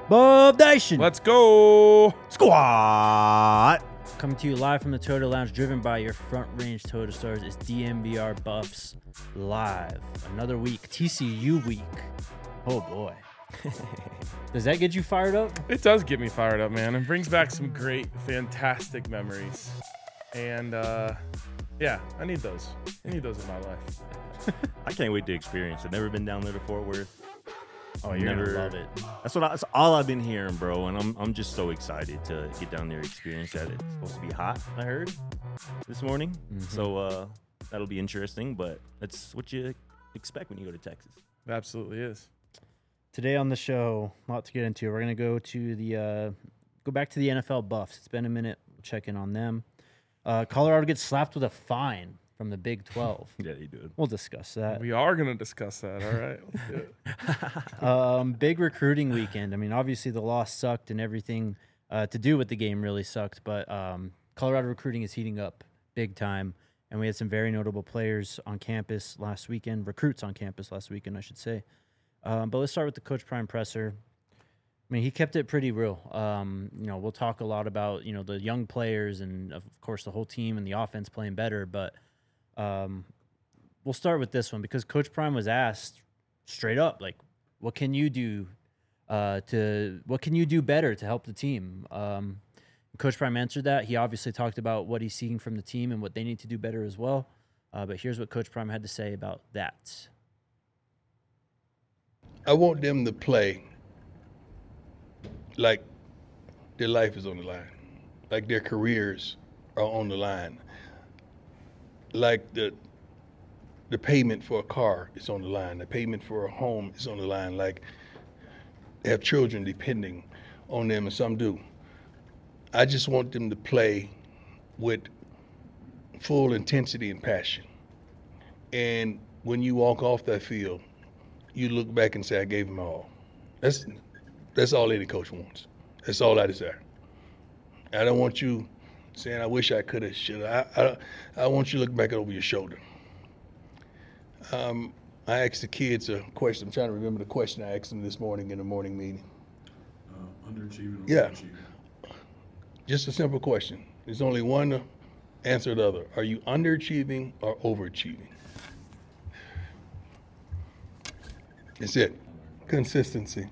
Bob Nation. Let's go. Squat. Coming to you live from the Toyota Lounge, driven by your Front Range Toyota stars. It's DNVR Buffs live. Another week, TCU week. Oh boy. Does that get you fired up? It does get me fired up, man. It brings back some great, fantastic memories. And yeah, I need those. I need those in my life. I can't wait to experience it. Never been down there to Fort Worth. Oh, you're gonna love it. That's all I've been hearing, bro. And I'm just so excited to get down there and experience that. It's supposed to be hot, I heard, this morning. Mm-hmm. So that'll be interesting. But that's what you expect when you go to Texas. It absolutely is. Today on the show, a lot to get into. We're gonna go to go back to the NFL Buffs. It's been a minute. We'll check in on them. Colorado gets slapped with a fine from the Big 12. Yeah, they do. We'll discuss that. We are going to discuss that. All right. Let's do it. Big recruiting weekend. I mean, obviously the loss sucked and everything to do with the game really sucked, but Colorado recruiting is heating up big time, and we had some very notable players on campus last weekend, recruits on campus last weekend, I should say. But let's start with the Coach Prime presser. I mean, he kept it pretty real. We'll talk a lot about, the young players and, of course, the whole team and the offense playing better, but we'll start with this one because Coach Prime was asked straight up, like, what can you do better to help the team? Coach Prime answered that. He obviously talked about what he's seeking from the team and what they need to do better as well. But here's what Coach Prime had to say about that. I want them to play like their life is on the line, like their careers are on the line, like the payment for a car is on the line, the payment for a home is on the line, like they have children depending on them, and some do. I just want them to play with full intensity and passion. And when you walk off that field, you look back and say, I gave them all. That's all any coach wants. That's all I desire. I don't want you saying, I wish I could have, should have. I want you to look back over your shoulder. I asked the kids a question. I'm trying to remember the question I asked them this morning in the morning meeting. Underachieving or Yeah. overachieving? Just a simple question. There's only one answer or the other. Are you underachieving or overachieving? That's it. Consistency.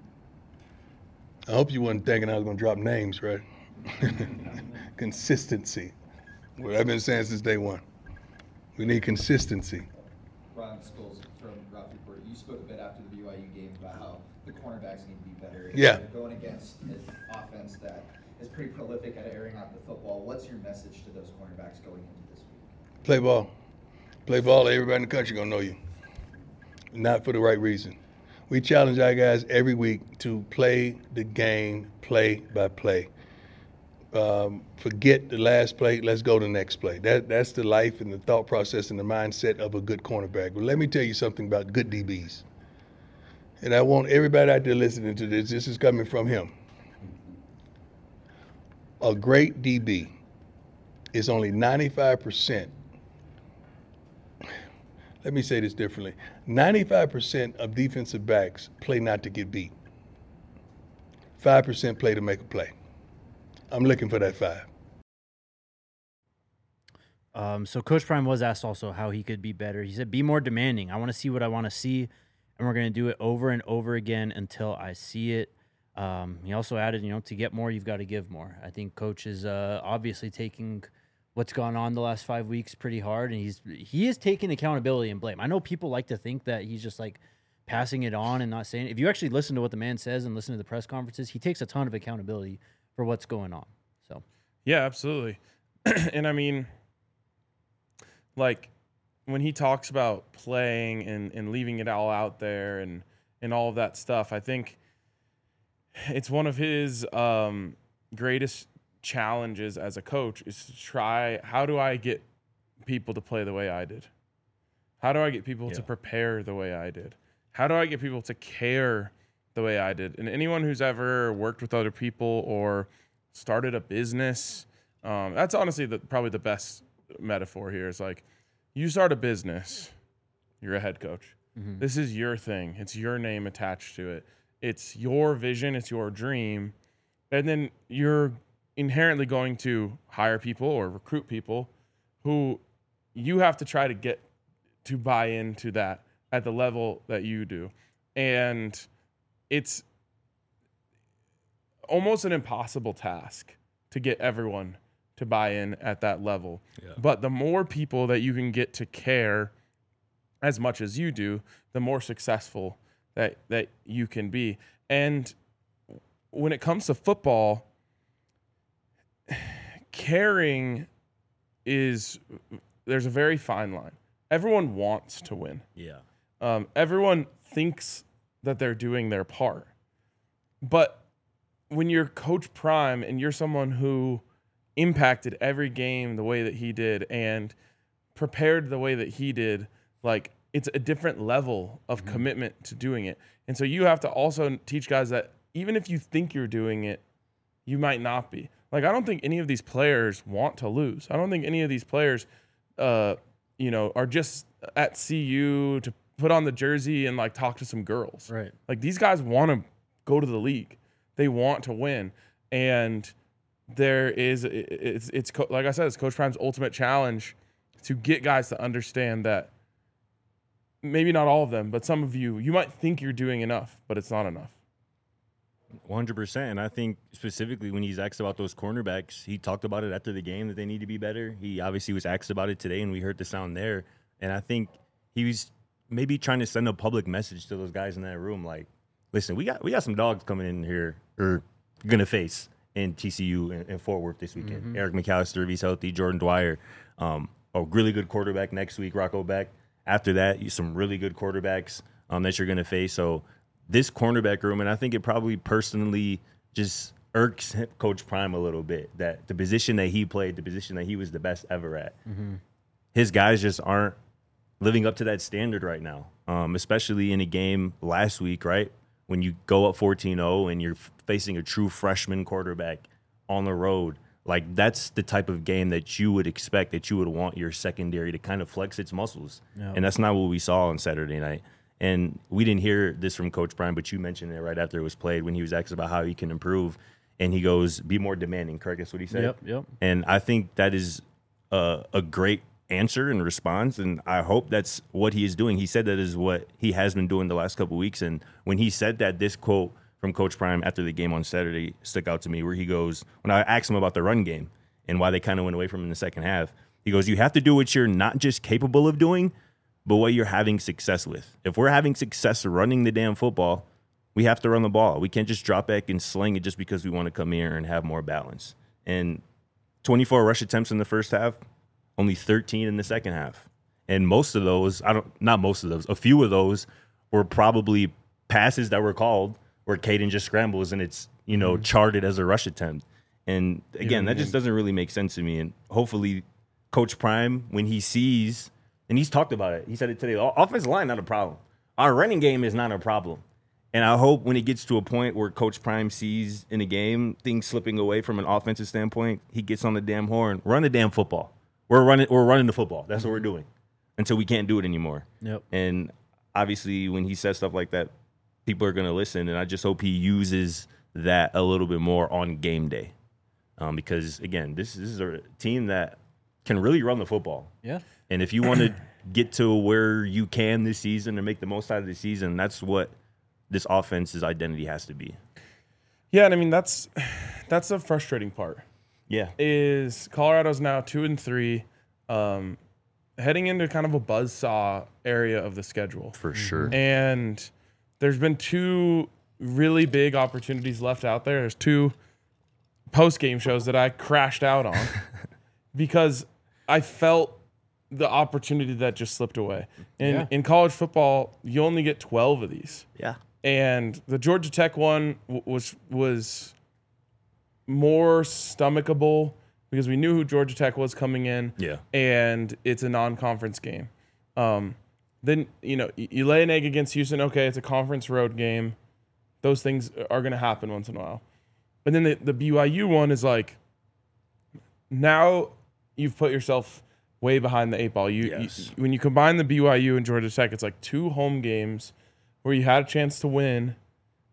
I hope you weren't thinking I was going to drop names, right? Consistency. What I've been saying since day one. We need consistency. Ron Scholes from Rough Report. You spoke a bit after the BYU game about how the cornerbacks need to be better. Yeah. You're going against an offense that is pretty prolific at airing out the football. What's your message to those cornerbacks going into this week? Play ball. Play ball. Everybody in the country going to know you. Not for the right reason. We challenge our guys every week to play the game play by play. Forget the last play. Let's go to the next play. That's the life and the thought process and the mindset of a good cornerback. But let me tell you something about good DBs. And I want everybody out there listening to this. This is coming from him. A great DB is only 95%. Let me say this differently. 95% of defensive backs play not to get beat. 5% play to make a play. I'm looking for that 5. So Coach Prime was asked also how he could be better. He said, be more demanding. I want to see what I want to see, and we're going to do it over and over again until I see it. He also added, to get more, you've got to give more. I think Coach is obviously taking what's gone on the last 5 weeks pretty hard, and he is taking accountability and blame. I know people like to think that he's just like passing it on and not saying it. If you actually listen to what the man says and listen to the press conferences, he takes a ton of accountability for what's going on. So Yeah, absolutely. And I mean, like when he talks about playing and leaving it all out there and all of that stuff, I think it's one of his greatest challenges as a coach is to try, how do I get people to play the way I did? How do I get people to prepare the way I did? How do I get people to care the way I did? And anyone who's ever worked with other people or started a business, that's honestly probably the best metaphor here is like, you start a business, you're a head coach. Mm-hmm. This is your thing. It's your name attached to it. It's your vision. It's your dream. And then you're inherently going to hire people or recruit people who you have to try to get to buy into that at the level that you do. And it's almost an impossible task to get everyone to buy in at that level. Yeah. But the more people that you can get to care as much as you do, the more successful that you can be. And when it comes to football, caring there's a very fine line. Everyone wants to win. Yeah. Everyone thinks that they're doing their part. But when you're Coach Prime and you're someone who impacted every game the way that he did and prepared the way that he did, like, it's a different level of commitment to doing it. And so you have to also teach guys that even if you think you're doing it, you might not be. Like, I don't think any of these players want to lose. I don't think any of these players, are just at CU to put on the jersey and, like, talk to some girls. Right. Like, these guys want to go to the league. They want to win. And like I said, it's Coach Prime's ultimate challenge to get guys to understand that maybe not all of them, but some of you might think you're doing enough, but it's not enough. 100%. And I think specifically when he's asked about those cornerbacks, he talked about it after the game that they need to be better. He obviously was asked about it today, and we heard the sound there. And I think he was maybe trying to send a public message to those guys in that room, like, listen, we got some dogs coming in here or going to face in TCU and Fort Worth this weekend. Mm-hmm. Eric McAllister, if he's healthy, Jordan Dwyer, a really good quarterback next week, Rocco Beck. After that, some really good quarterbacks that you're going to face. So this cornerback room, and I think it probably personally just irks Coach Prime a little bit, that the position that he played, the position that he was the best ever at, his guys just aren't living up to that standard right now, especially in a game last week, right? When you go up 14-0 and you're facing a true freshman quarterback on the road, like, that's the type of game that you would expect, that you would want your secondary to kind of flex its muscles. Yep. And that's not what we saw on Saturday night. And we didn't hear this from Coach Prime, but you mentioned it right after it was played when he was asked about how he can improve. And he goes, be more demanding, correct? That's what he said? Yep. And I think that is a great answer and response, and I hope that's what he is doing. He said that is what he has been doing the last couple of weeks. And when he said that, this quote from Coach Prime after the game on Saturday stuck out to me, where he goes, when I asked him about the run game and why they kind of went away from it in the second half, he goes, you have to do what you're not just capable of doing, but what you're having success with. If we're having success running the damn football, we have to run the ball. We can't just drop back and sling it just because we want to come here and have more balance. And 24 rush attempts in the first half, only 13 in the second half. And most of those, a few of those were probably passes that were called where Caden just scrambles and it's, charted as a rush attempt. And again, that just doesn't really make sense to me. And hopefully Coach Prime, when he sees, and he's talked about it, he said it today, offensive line, not a problem. Our running game is not a problem. And I hope when it gets to a point where Coach Prime sees in a game things slipping away from an offensive standpoint, he gets on the damn horn, run the damn football. We're running the football. That's what we're doing until we can't do it anymore. Yep. And obviously when he says stuff like that, people are going to listen. And I just hope he uses that a little bit more on game day. Because, again, this is a team that can really run the football. Yeah. And if you want to get to where you can this season and make the most out of the season, that's what this offense's identity has to be. Yeah, and I mean, that's the frustrating part. Yeah. Is Colorado's now 2-3, heading into kind of a buzzsaw area of the schedule. For sure. And there's been two really big opportunities left out there. There's two post-game shows that I crashed out on because I felt the opportunity that just slipped away. And in college football, you only get 12 of these. Yeah. And the Georgia Tech one was more stomachable because we knew who Georgia Tech was coming in. Yeah. And it's a non-conference game. Then, you lay an egg against Houston. Okay, it's a conference road game. Those things are going to happen once in a while. But then the BYU one is like, now you've put yourself way behind the eight ball. When you combine the BYU and Georgia Tech, it's like two home games where you had a chance to win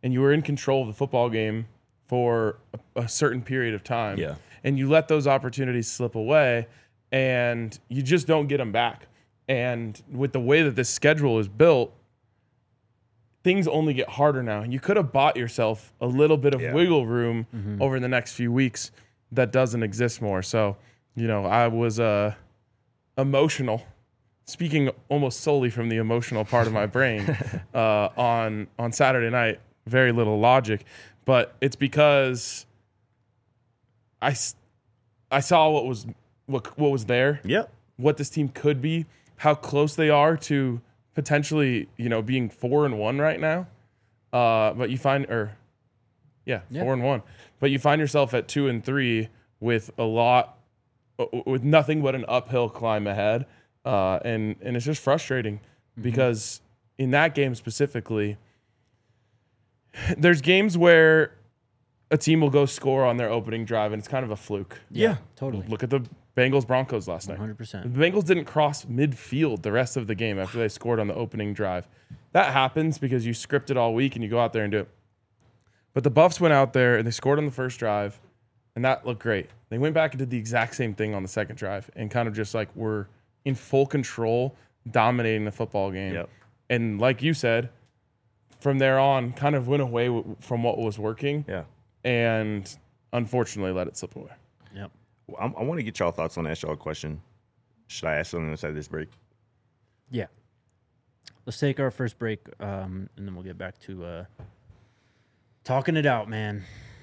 and you were in control of the football game for a certain period of time. Yeah. And you let those opportunities slip away, and you just don't get them back. And with the way that this schedule is built, things only get harder now. You could have bought yourself a little bit of wiggle room over the next few weeks that doesn't exist more. So, I was emotional, speaking almost solely from the emotional part of my brain on Saturday night. Very little logic, but it's because I saw what was there. Yep. What this team could be, how close they are to potentially, being 4-1 right now. But you find, 4-1. But you find yourself at 2-3 with with nothing but an uphill climb ahead. And it's just frustrating because in that game specifically, there's games where a team will go score on their opening drive and it's kind of a fluke. Yeah, totally. Look at the Bengals-Broncos last night. 100%. The Bengals didn't cross midfield the rest of the game after they scored on the opening drive. That happens because you script it all week and you go out there and do it. But the Buffs went out there and they scored on the first drive, and that looked great. They went back and did the exact same thing on the second drive and kind of just were in full control, dominating the football game. Yep. And like you said, from there on, kind of went away from what was working. Yeah. And unfortunately let it slip away. Yep. I want to get y'all thoughts on ask y'all a question. Should I ask something inside this break? Yeah. Let's take our first break, and then we'll get back to talking it out, man.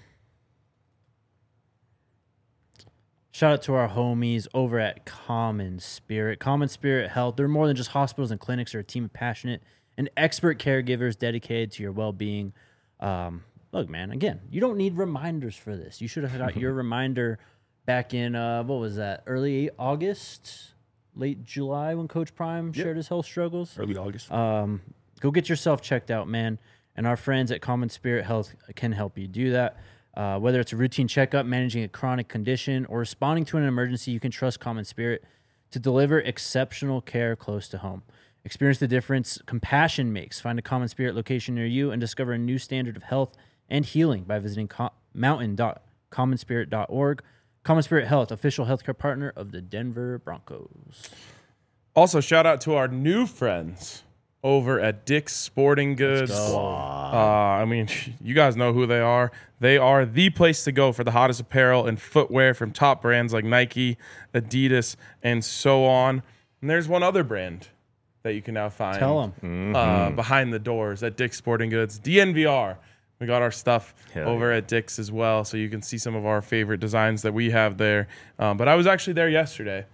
Shout out to our homies over at Common Spirit. Common Spirit Health. They're more than just hospitals and clinics. They're a team of passionate and expert caregivers dedicated to your well-being. Look, man, again, you don't need reminders for this. You should have got your reminder back in, what was that, early August, late July when Coach Prime shared his health struggles? Early August. Go get yourself checked out, man. And our friends at Common Spirit Health can help you do that. Whether it's a routine checkup, managing a chronic condition, or responding to an emergency, you can trust Common Spirit to deliver exceptional care close to home. Experience the difference compassion makes. Find a Common Spirit location near you and discover a new standard of health and healing by visiting mountain.commonspirit.org. Common Spirit Health, official healthcare partner of the Denver Broncos. Also, shout out to our new friends over at Dick's Sporting Goods. You guys know who they are. They are the place to go for the hottest apparel and footwear from top brands like Nike, Adidas, and so on. And there's one other brand that you can now find behind the doors at Dick's Sporting Goods, DNVR. We got our stuff over at Dick's as well, so you can see some of our favorite designs that we have there. But I was actually there yesterday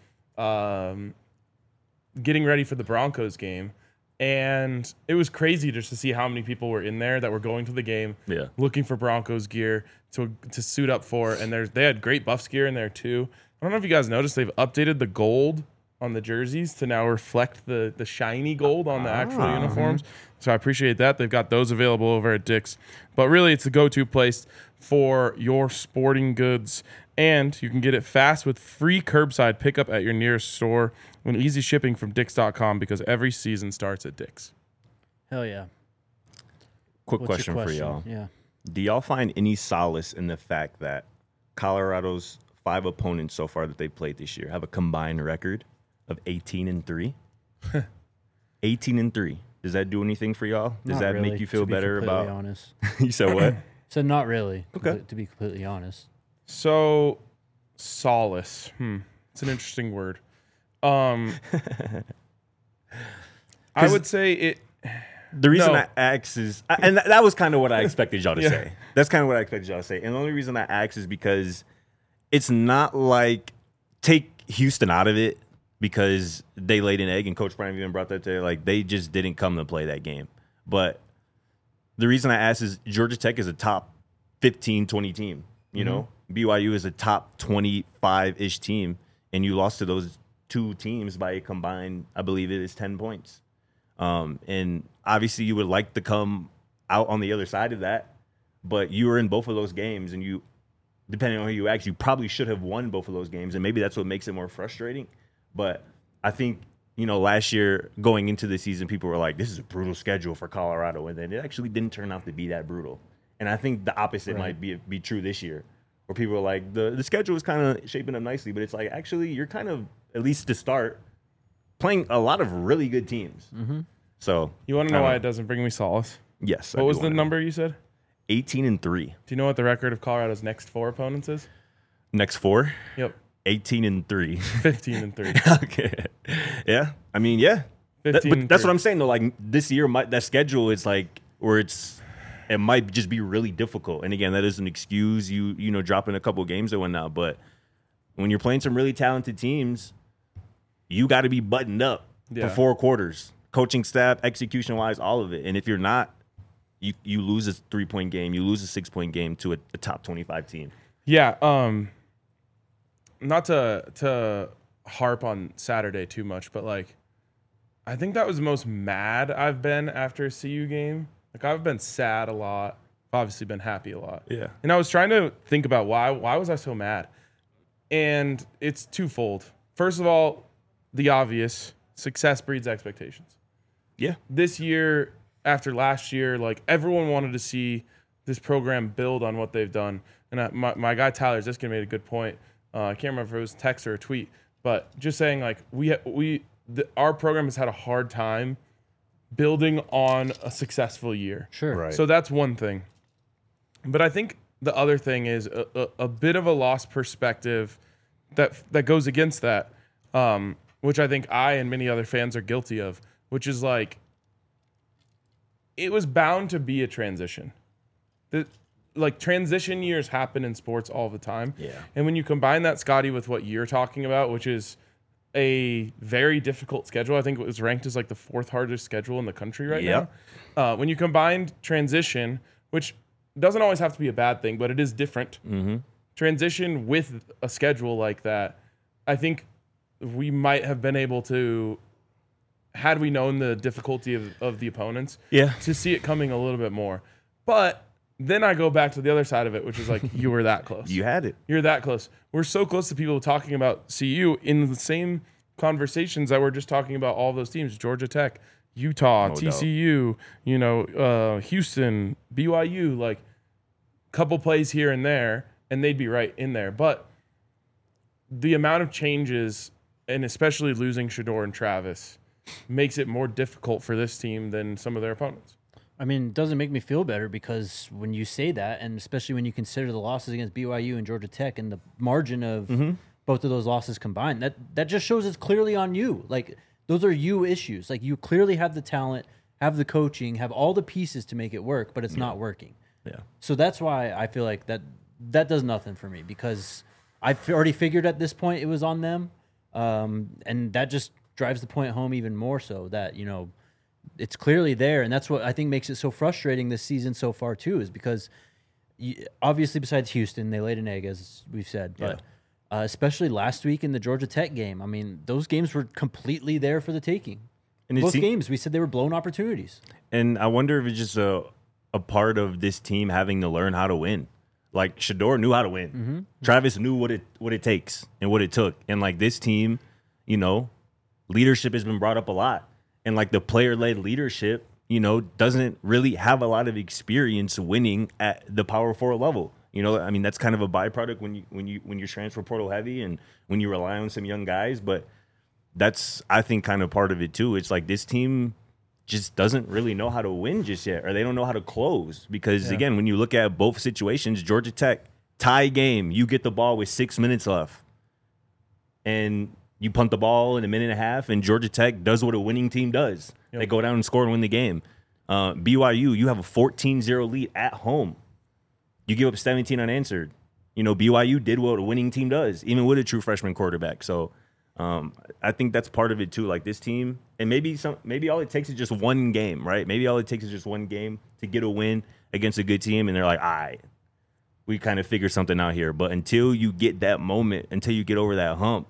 getting ready for the Broncos game, and it was crazy just to see how many people were in there that were going to the game, looking for Broncos gear to suit up for. And they had great Buffs gear in there too. I don't know if you guys noticed, they've updated the gold on the jerseys to now reflect the shiny gold on the actual uniforms. So I appreciate that. They've got those available over at Dick's. But really, it's the go-to place for your sporting goods. And you can get it fast with free curbside pickup at your nearest store and easy shipping from Dicks.com because every season starts at Dick's. Hell yeah. Quick What's your question for y'all. Yeah. Do y'all find any solace in the fact that Colorado's 5 opponents so far that they've played this year have a combined record of 18-3? 18-3. Does that do anything for y'all? Does Not that really, make you feel to be better completely about? Honest. You said what? So not really. Okay. To be completely honest. So, solace. It's an interesting word. I would say it. The reason No. I ask is, and that was kind of what I expected y'all to say. That's kind of what I expected y'all to say. And the only reason I ask is because it's not like, take Houston out of it because they laid an egg, and Coach Prime even brought that to, like, they just didn't come to play that game. But the reason I ask is Georgia Tech is a top 15, 20 team, you know? BYU is a top 25-ish team, and you lost to those two teams by a combined, I believe it is 10 points. And obviously you would like to come out on the other side of that, but you were in both of those games, and you, depending on who you ask, you probably should have won both of those games, and maybe that's what makes it more frustrating. But I think, last year going into the season, people were like, this is a brutal schedule for Colorado. And then it actually didn't turn out to be that brutal. And I think the opposite might be true this year, where people are like, the schedule is kind of shaping up nicely, but it's like, actually, you're kind of, at least to start, playing a lot of really good teams. Mm-hmm. So You want to know why it doesn't bring me solace? yes. What was the number you said? 18-3. Do you know what the record of Colorado's next 4 opponents is? Next 4, Yep. 18-3. 15-3. Okay. Yeah. I mean, yeah. But 15-3. that's what I'm saying, though. Like, this year, that schedule is like where it might just be really difficult. And again, that doesn't excuse you dropping a couple games or whatnot. But when you're playing some really talented teams, you got to be buttoned up for 4 quarters. Coaching staff, execution-wise, all of it. And if you're not, you lose a 3-point game. You lose a 6-point game to a top 25 team. Yeah. Not to harp on Saturday too much, but like, I think that was the most mad I've been after a CU game. Like, I've been sad a lot. I've obviously been happy a lot. Yeah. And I was trying to think about why was I so mad? And it's twofold. First of all, the obvious, success breeds expectations. Yeah. This year, after last year, like, everyone wanted to see this program build on what they've done. And my guy Tyler Ziskin made a good point. I can't remember if it was text or a tweet, but just saying, like, our program has had a hard time building on a successful year. Sure. Right. So that's one thing. But I think the other thing is a bit of a lost perspective that goes against that, which I think I and many other fans are guilty of, which is like, it was bound to be a transition. Like, transition years happen in sports all the time. Yeah. And when you combine that, Scotty, with what you're talking about, which is a very difficult schedule. I think it was ranked as like the 4th hardest schedule in the country right now. When you combine transition, which doesn't always have to be a bad thing, but it is different. Mm-hmm. Transition with a schedule like that, I think we might have been able to, had we known the difficulty of the opponents, to see it coming a little bit more. But then I go back to the other side of it, which is like, you were that close. You had it. You're that close. We're so close to people talking about CU in the same conversations that we're just talking about all those teams: Georgia Tech, Utah, TCU, Houston, BYU, like, couple plays here and there, and they'd be right in there. But the amount of changes, and especially losing Shedeur and Travis, makes it more difficult for this team than some of their opponents. I mean, it doesn't make me feel better, because when you say that, and especially when you consider the losses against BYU and Georgia Tech and the margin of both of those losses combined, that just shows it's clearly on you. Like, those are you issues. Like, you clearly have the talent, have the coaching, have all the pieces to make it work, but it's not working. Yeah. So that's why I feel like that does nothing for me, because I've already figured at this point it was on them, and that just drives the point home even more so that, it's clearly there. And that's what I think makes it so frustrating this season so far too, is because obviously besides Houston, they laid an egg, as we've said, but especially last week in the Georgia Tech game, I mean, those games were completely there for the taking. And both games, we said they were blown opportunities. And I wonder if it's just a part of this team having to learn how to win. Like, Shedeur knew how to win. Mm-hmm. Travis knew what it takes and what it took. And like, this team, leadership has been brought up a lot. And like, the player-led leadership, doesn't really have a lot of experience winning at the Power 4 level. I mean, that's kind of a byproduct when you're transfer portal heavy and when you rely on some young guys. But that's, I think, kind of part of it too. It's like, this team just doesn't really know how to win just yet, or they don't know how to close. Because again, when you look at both situations, Georgia Tech tie game, you get the ball with 6 minutes left, and you punt the ball in a minute and a half, and Georgia Tech does what a winning team does. Yep. They go down and score and win the game. BYU, you have a 14-0 lead at home. You give up 17 unanswered. BYU did what a winning team does, even with a true freshman quarterback. So I think that's part of it too. Like, this team, and maybe all it takes is just one game, right? Maybe all it takes is just one game to get a win against a good team, and they're like, all right, we kind of figured something out here. But until you get that moment, until you get over that hump,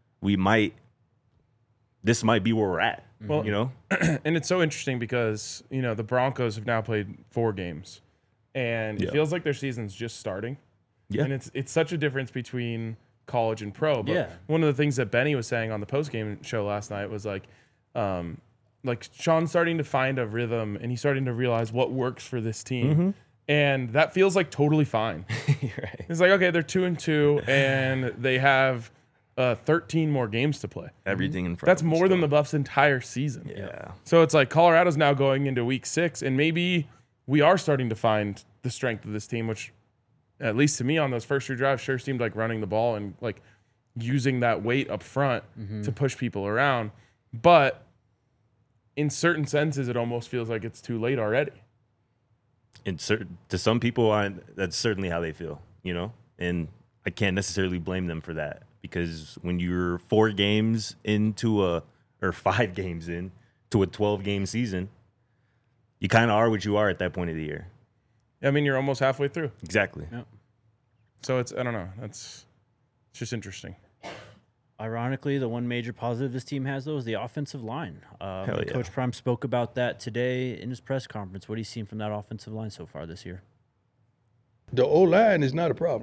this might be where we're at. Well, and it's so interesting because, the Broncos have now played 4 games, and it feels like their season's just starting. Yeah. And it's such a difference between college and pro. But Yeah. one of the things that Benny was saying on the postgame show last night was like Sean's starting to find a rhythm and he's starting to realize what works for this team. And that feels like totally fine. Right. It's like, okay, they're 2-2 and they have 13 more games to play. Everything in front. That's of them more than still. the Buffs' entire season. Yeah. So it's like Colorado's now going into week 6, and maybe we are starting to find the strength of this team, which, at least to me, on those first 2 drives, sure seemed like running the ball and like using that weight up front to push people around. But in certain senses, it almost feels like it's too late already. To some people, that's certainly how they feel, you know? And I can't necessarily blame them for that, because when you're 4 games into or 5 games into a 12-game season, you kind of are what you are at that point of the year. I mean, you're almost halfway through. Exactly. Yep. So it's, I don't know. It's just interesting. Ironically, the one major positive this team has, though, is the offensive line. Hell yeah. Coach Prime spoke about that today in his press conference. What have you seen from that offensive line so far this year? The O-line is not a problem.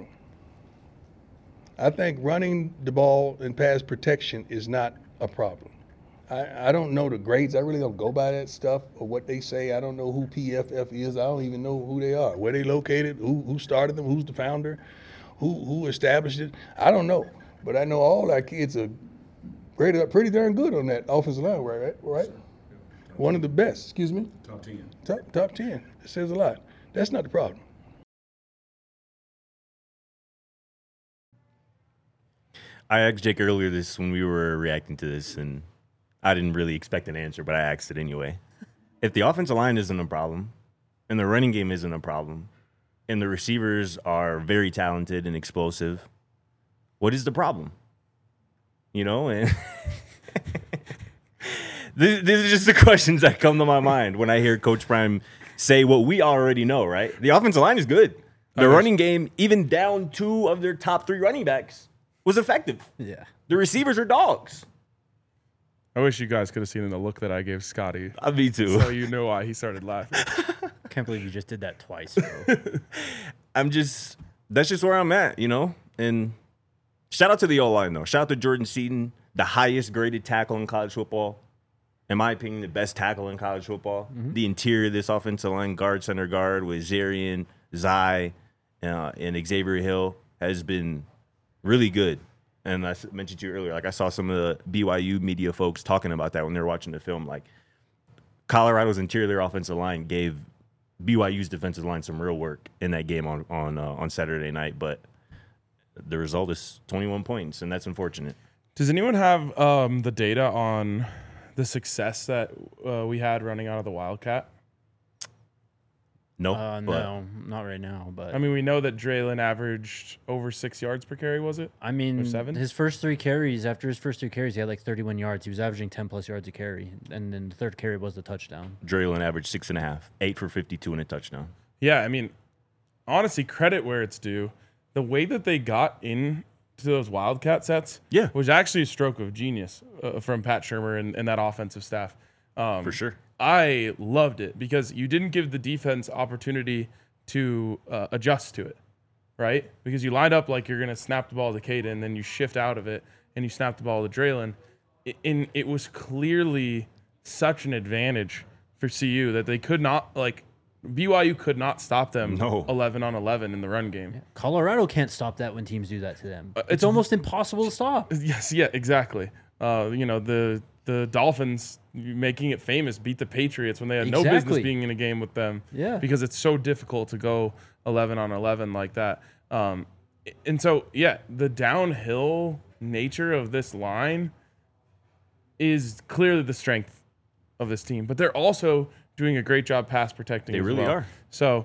I think running the ball and pass protection is not a problem. I don't know the grades. I really don't go by that stuff or what they say. I don't know who PFF is. I don't even know who they are, where they located, who started them, who's the founder, who established it. I don't know. But I know all our kids are graded up pretty darn good on that offensive line, right? One of the best, excuse me? Top 10. Top 10. That says a lot. That's not the problem. I asked Jake earlier when we were reacting to this, and I didn't really expect an answer, but I asked it anyway. If the offensive line isn't a problem, and the running game isn't a problem, and the receivers are very talented and explosive, what is the problem? You know, and these are just the questions that come to my mind when I hear Coach Prime say what we already know, right? The offensive line is good. The running game, even down 2 of their top 3 running backs, was effective. Yeah. The receivers are dogs. I wish you guys could have seen the look that I gave Scotty. Me too. So you know why he started laughing. Can't believe you just did that twice, bro. That's just where I'm at, you know? And shout out to the O-line, though. Shout out to Jordan Seaton, the highest graded tackle in college football. In my opinion, the best tackle in college football. The interior of this offensive line, guard, center guard, with Zarian, Zai, and Xavier Hill has been really good. And I mentioned to you earlier, like I saw some of the BYU media folks talking about that when they were watching the film. Like Colorado's interior offensive line gave BYU's defensive line some real work in that game on Saturday night. But the result is 21 points, and that's unfortunate. Does anyone have the data on the success that we had running out of the Wildcat? No, No, not right now. But I mean, we know that Draylon averaged over 6 yards per carry, was it? I mean, Or 7? his first 3 carries, after his first 3 carries, he had like 31 yards. He was averaging 10+ yards a carry. And then the third carry was the touchdown. Draylon averaged 6.5, 8 for 52 and a touchdown. Yeah, I mean, honestly, credit where it's due. The way that they got into those Wildcat sets was actually a stroke of genius from Pat Shurmur and that offensive staff. For sure. I loved it because you didn't give the defense opportunity to adjust to it, right? Because you lined up like you're going to snap the ball to Caden, then you shift out of it and you snap the ball to Draylon. It was clearly such an advantage for CU that they could not, like, BYU could not stop them 11 on 11 in the run game. Colorado can't stop that when teams do that to them. It's almost impossible to stop. Yes, yeah, exactly. The Dolphins, making it famous, beat the Patriots when they had no business being in a game with them. Yeah. Because it's so difficult to go 11 on 11 like that. And so, yeah, the downhill nature of this line is clearly the strength of this team. But they're also doing a great job pass protecting as well. They really are. So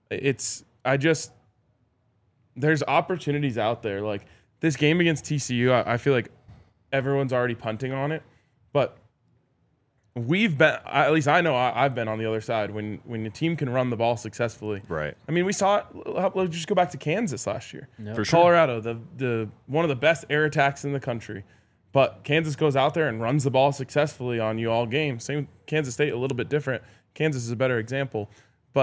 there's opportunities out there. Like this game against TCU, I feel like everyone's already punting on it. But we've been, at least I know I've been on the other side when the team can run the ball successfully. Right. I mean, we saw it. Let's just go back to Kansas last year. Yep. For sure. Colorado, the one of the best air attacks in the country. But Kansas goes out there and runs the ball successfully on you all game. Same with Kansas State, a little bit different. Kansas is a better example. But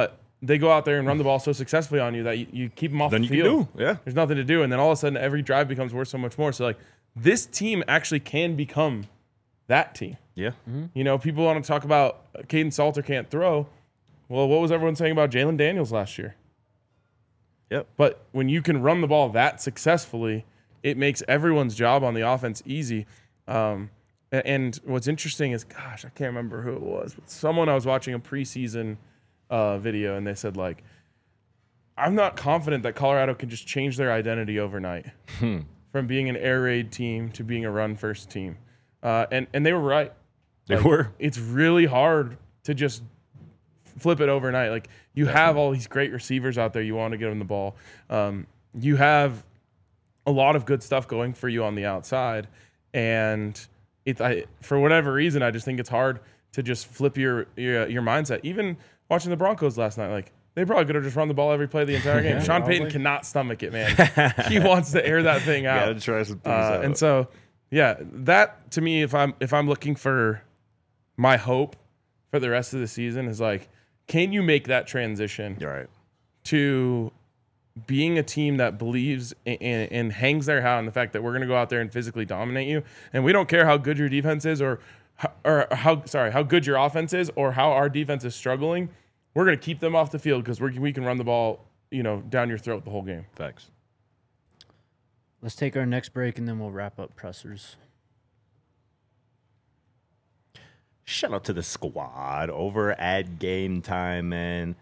they go out there and run the ball so successfully on you that you keep them off Then the you can field. do, yeah. There's nothing to do. And then all of a sudden, every drive becomes worth so much more. So, like, this team actually can become that team. Yeah. You know, people want to talk about Caden Salter can't throw. Well, what was everyone saying about Jalen Daniels last year? Yep. But when you can run the ball that successfully, it makes everyone's job on the offense easy. And what's interesting is, gosh, I can't remember who it was, but someone I was watching a preseason video, and they said, like, I'm not confident that Colorado can just change their identity overnight from being an air raid team to being a run-first team. And they were right. They were. It's really hard to just flip it overnight. Like, you have all these great receivers out there. You want to get them the ball. You have a lot of good stuff going for you on the outside. And for whatever reason, I just think it's hard to just flip your mindset. Even watching the Broncos last night, like, they probably could have just run the ball every play of the entire game. Sean Payton cannot stomach it, man. He wants to air that thing out. Gotta try some things out. And so, yeah, that to me, if I'm looking for my hope for the rest of the season, is like, can you make that transition You're right. to being a team that believes and hangs their hat on the fact that we're going to go out there and physically dominate you, and we don't care how good your defense is or how good your offense is or how our defense is struggling. We're going to keep them off the field because we can run the ball, down your throat the whole game. Facts. Let's take our next break, and then we'll wrap up pressers. Shout out to the squad over at Game Time, man.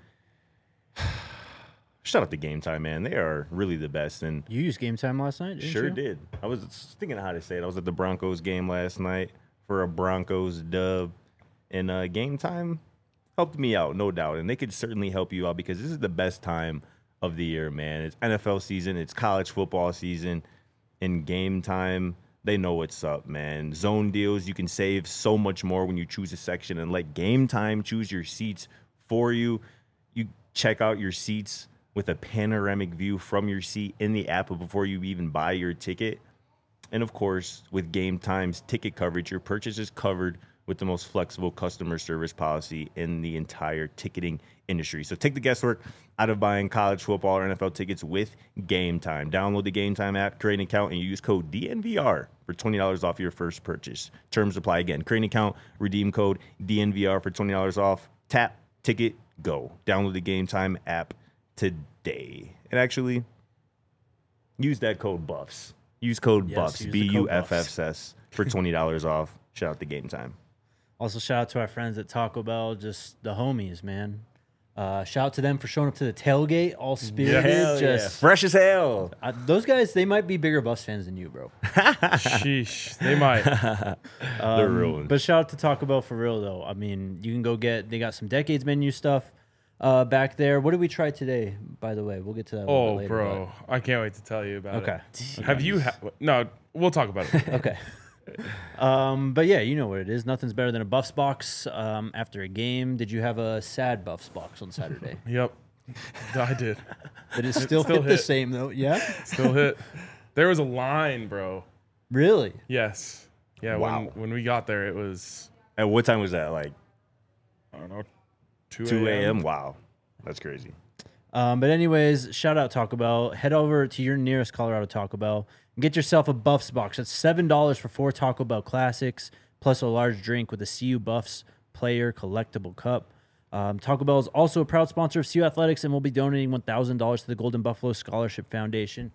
Shout out to Game Time, man. They are really the best. And You used Game Time last night, didn't sure you? did. I was thinking of how to say it. I was at the Broncos game last night for a Broncos dub. And Game Time helped me out, no doubt. And they could certainly help you out because this is the best time of the year, man. It's NFL season. It's college football season. In Game Time, they know what's up, man. Zone deals, you can save so much more when you choose a section and let Game Time choose your seats for you. You check out your seats with a panoramic view from your seat in the app before you even buy your ticket. And of course, with Game Time's ticket coverage, your purchase is covered with the most flexible customer service policy in the entire ticketing industry. So take the guesswork out of buying college football or NFL tickets with Game Time. Download the Game Time app, create an account, and use code DNVR for $20 off your first purchase. Terms apply again. Create an account, redeem code DNVR for $20 off. Tap, ticket, go. Download the Game Time app today. And actually, use that code BUFFS. Use code BUFFS, use the code BUFFS, for $20 off. Shout out to Game Time. Also, shout out to our friends at Taco Bell, just the homies, man. Shout out to them for showing up to the tailgate, all spirited. Hell just yeah. Fresh as hell. Those guys, they might be bigger Buffs fans than you, bro. Sheesh, they might. They're real ones. But shout out to Taco Bell for real, though. I mean, you can go they got some Decades menu stuff back there. What did we try today, by the way? We'll get to that a little bit later. Bro, I can't wait to tell you about Okay. it. Have you? No, we'll talk about it. Okay. But yeah, you know what it is. Nothing's better than a Buffs box after a game. Did you have a sad Buffs box on Saturday? Yep, I did. Did it still hit the same, though? Yeah? Still hit. There was a line, bro. Really? Yes. Yeah. Wow. When we got there, it was, At what time was that? Like I don't know, 2 a.m.? Wow. That's crazy. But anyways, shout out Taco Bell. Head over to your nearest Colorado Taco Bell and get yourself a Buffs box. That's $7 for 4 Taco Bell classics, plus a large drink with a CU Buffs player collectible cup. Taco Bell is also a proud sponsor of CU Athletics and will be donating $1,000 to the Golden Buffalo Scholarship Foundation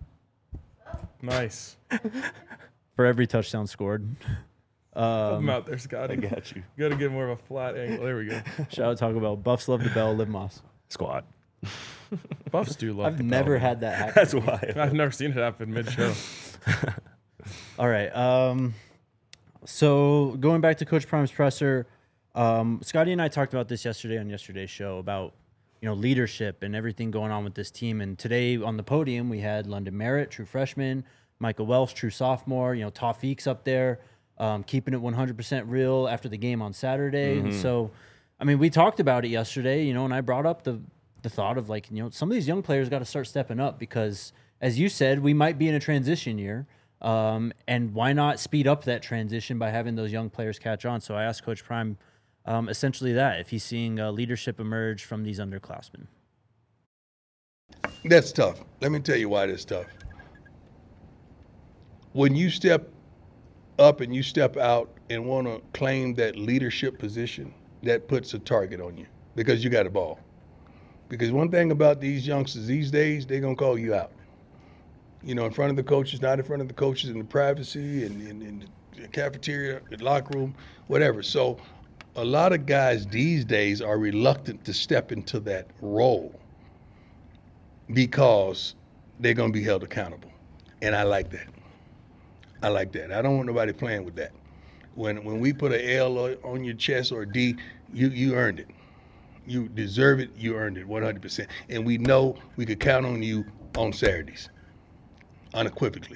nice. for every touchdown scored. I'm out there, Scotty. I got you. Got to get more of a flat angle. There we go. Shout out Taco Bell. Buffs love the bell. Live Moss. Squad. Buffs do love. I've the never bell. had that happen. That's why. I've never seen it happen mid-show. All right. So going back to Coach Prime's presser, Scotty and I talked about this yesterday on yesterday's show about leadership and everything going on with this team. And today on the podium we had London Merritt, true freshman, Michael Welsh, true sophomore. Tawfiq's up there, keeping it 100% real after the game on Saturday. And so, I mean, we talked about it yesterday. And I brought up the thought of some of these young players got to start stepping up because, as you said, we might be in a transition year. And why not speed up that transition by having those young players catch on? So I asked Coach Prime essentially that, if he's seeing leadership emerge from these underclassmen. That's tough. Let me tell you why that's tough. When you step up and you step out and want to claim that leadership position, that puts a target on you because you got a ball. Because one thing about these youngsters these days, they're going to call you out. You know, in front of the coaches, not in front of the coaches, in the privacy, and in the cafeteria, the locker room, whatever. So a lot of guys these days are reluctant to step into that role because they're going to be held accountable. And I like that. I like that. I don't want nobody playing with that. When we put an L on your chest or a D, you earned it. You deserve it. You earned it 100%. And we know we could count on you on Saturdays, unequivocally.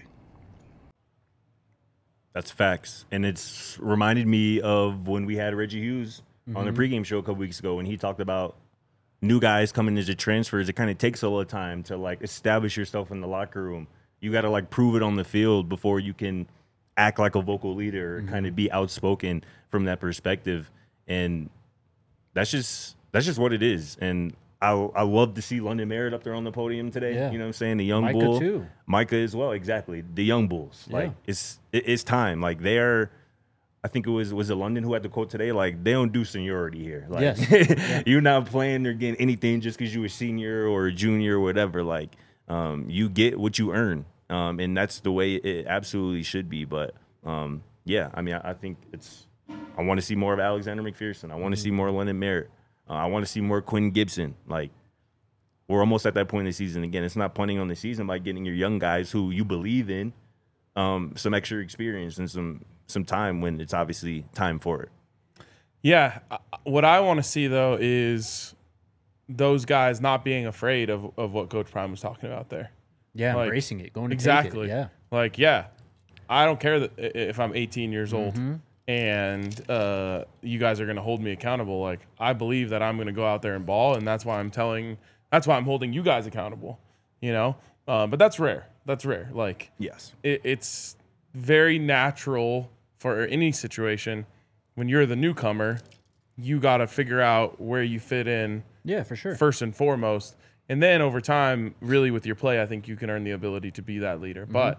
That's facts. And it's reminded me of when we had Reggie Hughes on the pregame show a couple weeks ago when he talked about new guys coming as transfers. It kind of takes a little time to like establish yourself in the locker room. You got to like prove it on the field before you can act like a vocal leader, kind of be outspoken from that perspective. And that's just what it is. And I love to see London Merritt up there on the podium today. Yeah. You know what I'm saying? The young Micah bull. too. Micah as well, exactly. The young bulls. Yeah. Like it's time. Like they are. I think it was it London who had the quote today. Like they don't do seniority here. Like Yes. you're not playing or getting anything just because you a senior or a junior or whatever. Like you get what you earn, and that's the way it absolutely should be. But yeah, I mean, I think it's. I want to see more of Alexander McPherson. I want to see more London Merritt. I want to see more Quinn Gibson. Like we're almost at that point in the season again. It's not punting on the season by getting your young guys who you believe in some extra experience and some time when it's obviously time for it. Yeah. What I want to see, though, is those guys not being afraid of what Coach Prime was talking about there. Yeah, Like, embracing it, going to exactly. take it. Yeah. Like, yeah, I don't care that if I'm 18 years old and you guys are going to hold me accountable. Like, I believe that I'm going to go out there and ball, and that's why I'm holding you guys accountable, you know? But that's rare. That's rare. Like, Yes. it's very natural for any situation when you're the newcomer, you got to figure out where you fit in. Yeah, for sure. First and foremost. And then over time, really with your play, I think you can earn the ability to be that leader. But,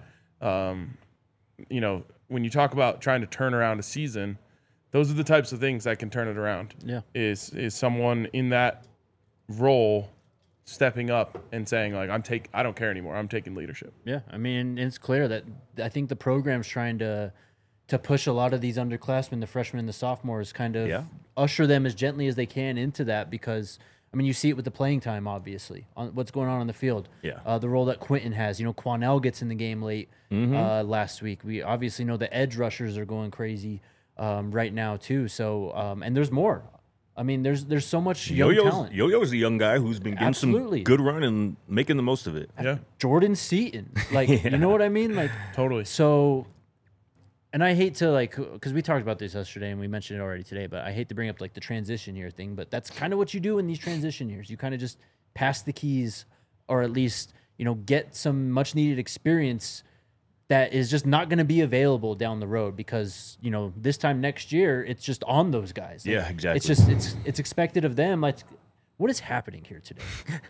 you know, when you talk about trying to turn around a season, those are the types of things that can turn it around. Yeah. Is someone in that role stepping up and saying, like, I don't care anymore. I'm taking leadership. Yeah, I mean, it's clear that I think the program's trying to push a lot of these underclassmen, the freshmen and the sophomores, kind of usher them as gently as they can into that because, I mean, you see it with the playing time, obviously, on what's going on the field. Yeah. The role that Quentin has. You know, Quanell gets in the game late last week. We obviously know the edge rushers are going crazy right now, too. So, and there's more. I mean, there's so much young talent. Yo-Yo's a young guy who's been getting Absolutely. some good run and making the most of it. Yeah, Jordan Seaton. Like, you know what I mean? Like, totally. So, and I hate to, like, because we talked about this yesterday and we mentioned it already today, but I hate to bring up, like, the transition year thing, but that's kind of what you do in these transition years. You kind of just pass the keys or at least, you know, get some much-needed experience that is just not going to be available down the road because, you know, this time next year, it's just on those guys. Like, Yeah, exactly. It's just, it's expected of them. Like, what is happening here today?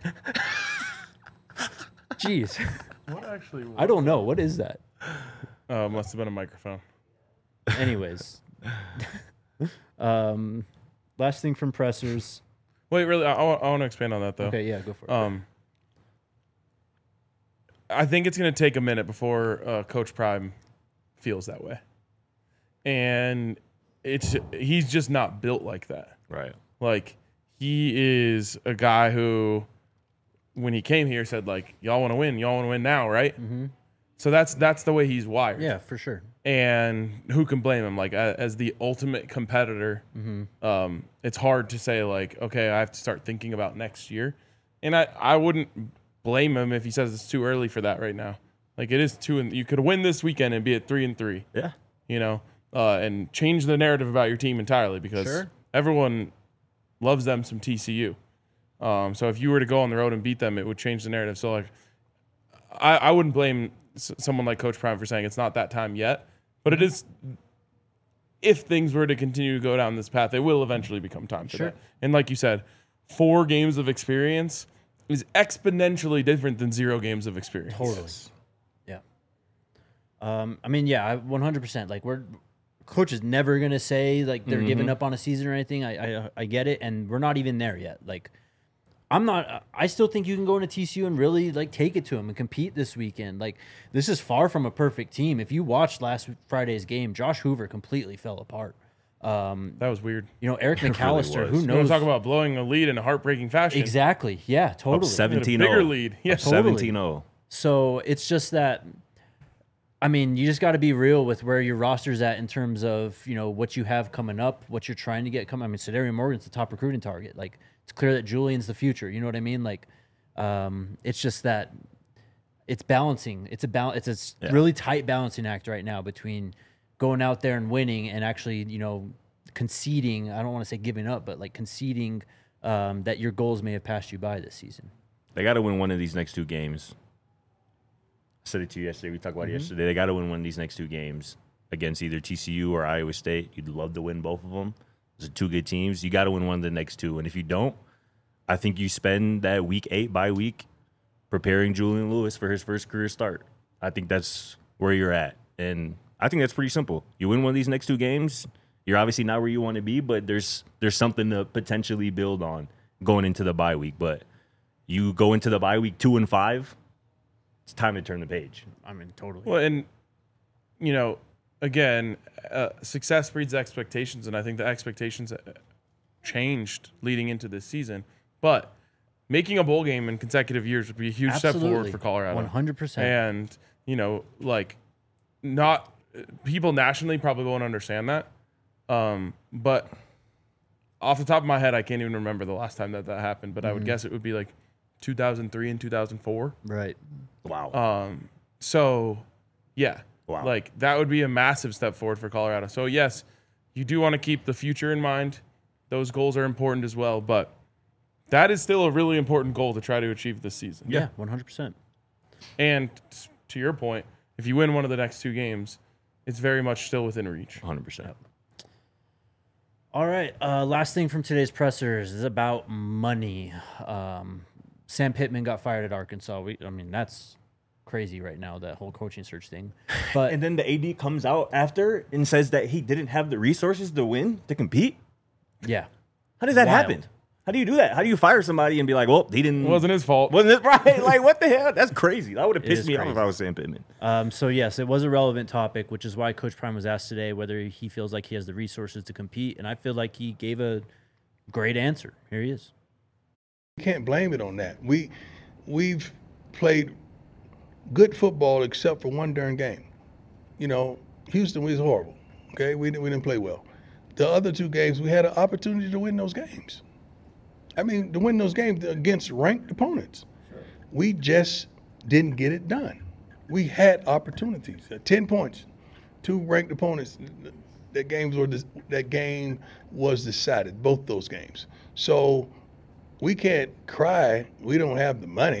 Jeez. What actually was I don't know. What is that? must have been a microphone. Anyways, last thing from pressers. Wait, really? I want to expand on that, though. Okay, yeah, go for it. I think it's going to take a minute before Coach Prime feels that way. And he's just not built like that. Right. Like, he is a guy who, when he came here, said, like, y'all want to win. Y'all want to win now, right? Mm-hmm. So that's the way he's wired. Yeah, for sure. And who can blame him? Like, as the ultimate competitor, it's hard to say, like, okay, I have to start thinking about next year. And I wouldn't blame him if he says it's too early for that right now. Like, it is 2 and you could win this weekend and be at 3-3. Yeah. You know, and change the narrative about your team entirely because everyone loves them some TCU. So if you were to go on the road and beat them, it would change the narrative. So, like, I wouldn't blame someone like Coach Prime for saying it's not that time yet, but it is if things were to continue to go down this path, it will eventually become time for Sure. that. And like you said, 4 games of experience is exponentially different than 0 games of experience. Totally. Yeah. I mean, yeah, 100%. Like, coach is never gonna say like they're giving up on a season or anything. I get it, and we're not even there yet. Like, I'm not. I still think you can go into TCU and really like take it to them and compete this weekend. Like, this is far from a perfect team. If you watched last Friday's game, Josh Hoover completely fell apart. That was weird. You know, Eric really McAllister, was. who You want knows? to talk about blowing a lead in a heartbreaking fashion? Exactly. Yeah, totally. Up 17-0. Bigger lead. Yes. Totally. 17-0. So it's just that, I mean, you just got to be real with where your roster's at in terms of, you know, what you have coming up, what you're trying to get coming. I mean, Sedarian Morgan's the top recruiting target. Like, it's clear that Julian's the future. You know what I mean? Like, it's just that it's balancing. It's a really tight balancing act right now between going out there and winning and actually, you know, conceding. I don't want to say giving up, but like conceding that your goals may have passed you by this season. They got to win one of these next 2 games. I said it to you yesterday. We talked about it yesterday. They got to win one of these next 2 games against either TCU or Iowa State. You'd love to win both of them. Those are 2 good teams. You got to win one of the next 2. And if you don't, I think you spend that week 8 bye week preparing Julian Lewis for his first career start. I think that's where you're at. And I think that's pretty simple. You win one of these next 2 games, you're obviously not where you want to be, but there's something to potentially build on going into the bye week. But you go into the bye week 2-5, it's time to turn the page. I mean, totally. Well, and, you know, again, success breeds expectations, and I think the expectations changed leading into this season. But making a bowl game in consecutive years would be a huge step forward for Colorado. 100%. And, you know, like, not people nationally probably won't understand that. But off the top of my head, I can't even remember the last time that happened, but I would guess it would be like 2003 and 2004. Right. Wow. So, yeah. Wow. Like, that would be a massive step forward for Colorado. So, yes, you do want to keep the future in mind. Those goals are important as well, but that is still a really important goal to try to achieve this season. Yeah, 100%. And to your point, if you win one of the next 2 games, it's very much still within reach. 100%. All right. Last thing from today's pressers is about money. Sam Pittman got fired at Arkansas. I mean, that's crazy right now, that whole coaching search thing. But And then the AD comes out after and says that he didn't have the resources to win, to compete. yeah, How does that Wild. happen? How do you do that? How do you fire somebody and be like, well, he didn't. It wasn't his fault. Wasn't it right? Like, what the hell? That's crazy. That would have It pissed is me off crazy. if I was Sam Pittman. So yes, it was a relevant topic, which is why Coach Prime was asked today whether he feels like he has the resources to compete, and I feel like he gave a great answer. Here he is. You can't blame it on that. We've played good football except for one darn game. You know, Houston was horrible. Okay, we didn't play well. The other 2 games, we had an opportunity to win those games. I mean, to win those games against ranked opponents. We just didn't get it done. We had opportunities. 10 points, 2 ranked opponents. That game was decided, both those games. So we can't cry. We don't have the money.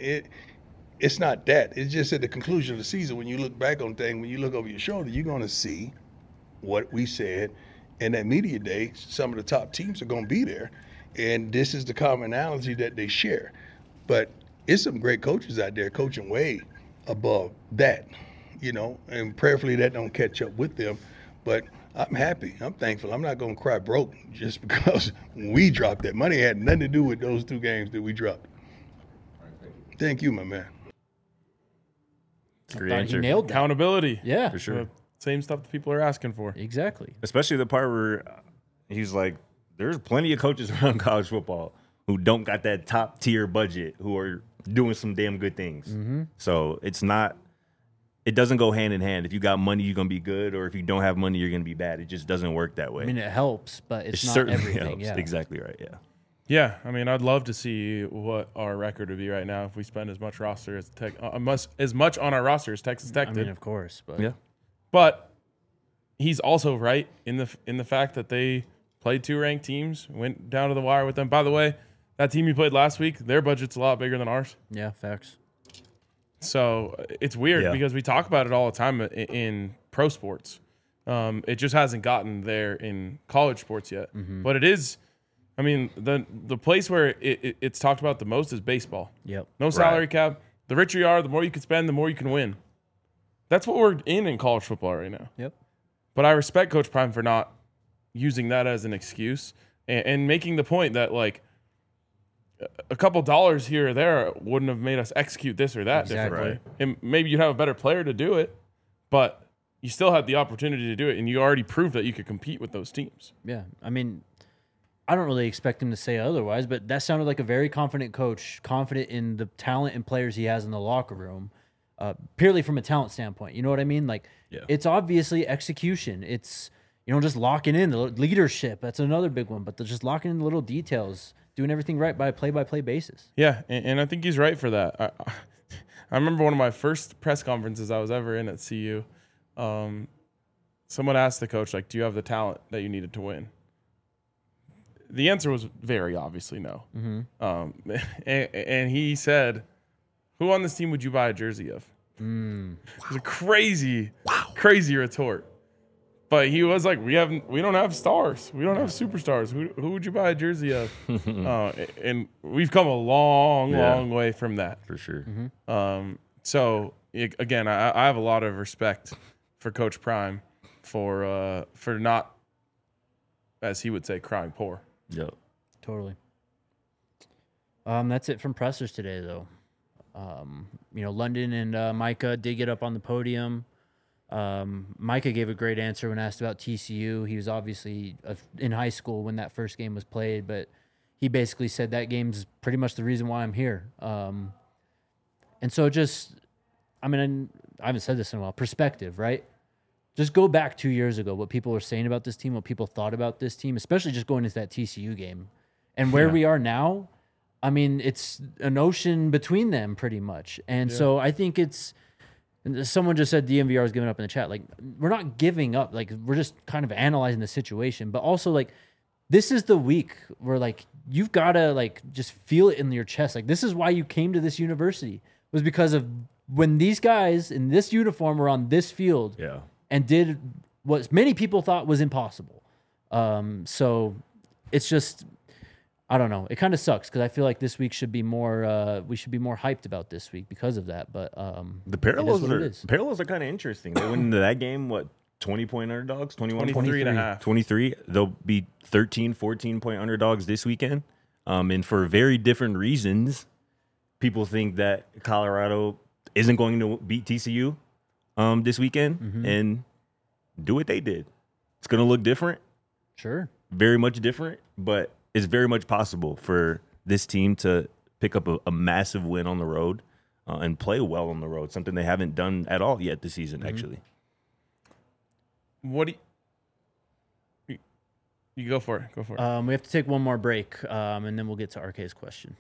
It's not that. It's just at the conclusion of the season, when you look back on things, when you look over your shoulder, you're going to see what we said. And that media day, some of the top teams are going to be there. And this is the commonality that they share. But it's some great coaches out there coaching way above that, you know, and prayerfully that don't catch up with them. But I'm happy. I'm thankful. I'm not going to cry broke just because we dropped that money. It had nothing to do with those 2 games that we dropped. Thank you, my man. Great Thought he answer. nailed that. Accountability. Yeah, For sure. Same stuff that people are asking for. exactly. Especially the part where he's like, there's plenty of coaches around college football who don't got that top tier budget who are doing some damn good things. So it doesn't go hand in hand. If you got money, you're going to be good. Or if you don't have money, you're going to be bad. It just doesn't work that way. I mean, it helps, but it's it not certainly everything. helps. Yeah, Exactly right. Yeah. Yeah, I mean, I'd love to see what our record would be right now if we spend as much as much on our roster as Texas Tech I did. mean, of course, but Yeah. But he's also right in the fact that they played 2 ranked teams, went down to the wire with them. By the way, that team you played last week, their budget's a lot bigger than ours. yeah, facts. So it's weird Yeah. because we talk about it all the time in pro sports. It just hasn't gotten there in college sports yet. But it is. I mean, the place where it's talked about the most is baseball. Yep. No salary cap. The richer you are, the more you can spend, the more you can win. That's what we're in college football right now. Yep. But I respect Coach Prime for not using that as an excuse and making the point that, like, a couple dollars here or there wouldn't have made us execute this or that differently. Right. And maybe you'd have a better player to do it, but you still had the opportunity to do it, and you already proved that you could compete with those teams. Yeah. I mean, I don't really expect him to say otherwise, but that sounded like a very confident coach, confident in the talent and players he has in the locker room, purely from a talent standpoint. You know what I mean? Like, It's obviously execution. It's, just locking in the leadership. That's another big one, but just locking in the little details, doing everything right by a play-by-play basis. Yeah, and I think he's right for that. I remember one of my first press conferences I was ever in at CU. Someone asked the coach, like, do you have the talent that you needed to win? The answer was very obviously no. And he said, who on this team would you buy a jersey of? It was a crazy retort. But he was like, we don't have stars. We don't have superstars. Who would you buy a jersey of? And we've come a long way from that. For sure. So again, I have a lot of respect for Coach Prime for not, as he would say, crying poor. Yep. Totally. That's it from pressers today, though. London and Micah did get up on the podium. Micah gave a great answer when asked about TCU. He was obviously in high school when that first game was played, but he basically said that game's pretty much the reason why I'm here. And so I haven't said this in a while, perspective, right? Just go back 2 years ago, what people were saying about this team, what people thought about this team, especially just going into that TCU game. And where we are now, I mean, it's an ocean between them pretty much. And so I think someone just said DMVR is giving up in the chat. Like, we're not giving up. Like, we're just kind of analyzing the situation. But also, like, this is the week where, like, you've got to, like, just feel it in your chest. Like, this is why you came to this university, was because of when these guys in this uniform were on this field. Yeah. And did what many people thought was impossible. So it's just, I don't know. It kind of sucks because I feel like this week should be more. We should be more hyped about this week because of that. But the parallels are kind of interesting. They went into that game, 20-point underdogs, 23 and a half. 23. They'll be 13, 14-point underdogs this weekend. And for very different reasons, people think that Colorado isn't going to beat TCU this weekend and do what they did. It's going to look different. Sure. Very much different, but it's very much possible for this team to pick up a massive win on the road and play well on the road, something they haven't done at all yet this season, actually. What do you go for it? Go for it. We have to take one more break, and then we'll get to RK's question.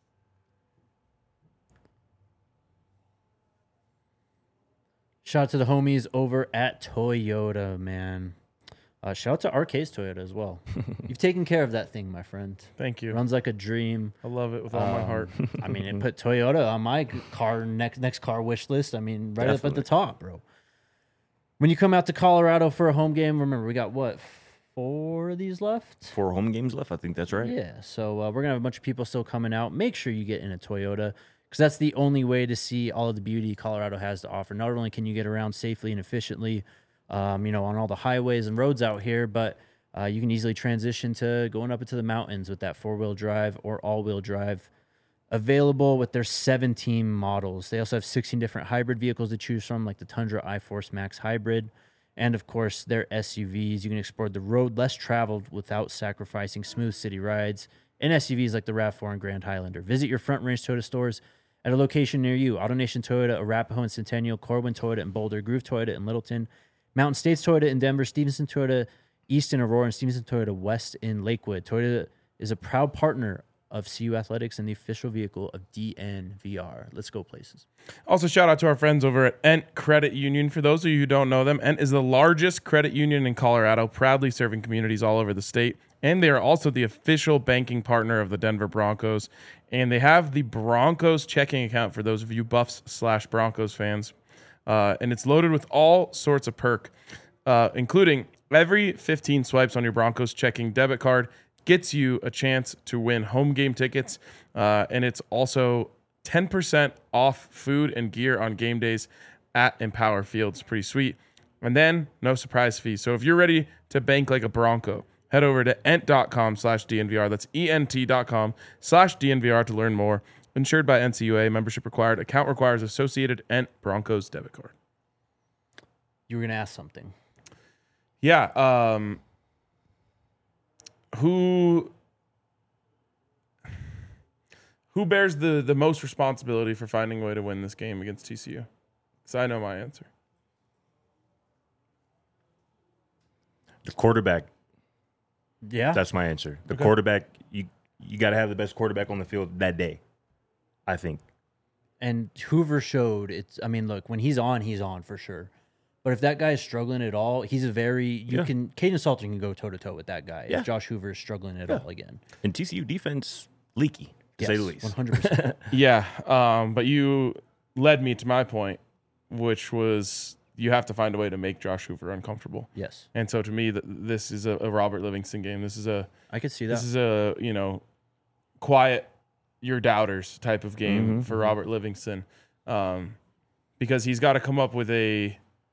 Shout out to the homies over at Toyota, man. Shout out to RK's Toyota as well. You've taken care of that thing, my friend. Thank you. Runs like a dream. I love it with all my heart. I mean, it put Toyota on my car next car wish list. I mean, right up at the top, bro. When you come out to Colorado for a home game, remember, we got, 4 of these left? 4 home games left. I think that's right. Yeah, so we're going to have a bunch of people still coming out. Make sure you get in a Toyota, because that's the only way to see all of the beauty Colorado has to offer. Not only can you get around safely and efficiently, on all the highways and roads out here, but you can easily transition to going up into the mountains with that 4-wheel drive or all-wheel drive available with their 17 models. They also have 16 different hybrid vehicles to choose from, like the Tundra iForce Max Hybrid, and of course their SUVs. You can explore the road less traveled without sacrificing smooth city rides in SUVs like the RAV4 and Grand Highlander. Visit your Front Range Toyota stores at a location near you. AutoNation Toyota, Arapahoe and Centennial, Corwin Toyota in Boulder, Groove Toyota in Littleton, Mountain States Toyota in Denver, Stevenson Toyota East in Aurora, and Stevenson Toyota West in Lakewood. Toyota is a proud partner of CU Athletics and the official vehicle of DNVR. Let's go places. Also, shout out to our friends over at Ent Credit Union. For those of you who don't know them, Ent is the largest credit union in Colorado, proudly serving communities all over the state. And they are also the official banking partner of the Denver Broncos. And they have the Broncos checking account for those of you Buffs/Broncos fans. And it's loaded with all sorts of perk. including every 15 swipes on your Broncos checking debit card gets you a chance to win home game tickets. And it's also 10% off food and gear on game days at Empower Fields. Pretty sweet. And then no surprise fee. So if you're ready to bank like a Bronco, head over to ent.com/DNVR. That's ent.com/DNVR to learn more. Insured by NCUA. Membership required. Account requires associated Ent Broncos debit card. You were going to ask something. Yeah. Who bears the most responsibility for finding a way to win this game against TCU? Because I know my answer. The quarterback. Yeah. That's my answer. The quarterback, you got to have the best quarterback on the field that day, I think. And Hoover showed it's, I mean, look, when he's on for sure. But if that guy is struggling at all, he's a very, Caden Salter can go toe-to-toe with that guy if Josh Hoover is struggling at all again. And TCU defense, leaky, to say the least. 100%. Yeah, but you led me to my point, which was you have to find a way to make Josh Hoover uncomfortable. Yes. And so to me, this is a Robert Livingston game. This is I could see that. This is a, quiet your doubters type of game for Robert Livingston, because he's got to come up with a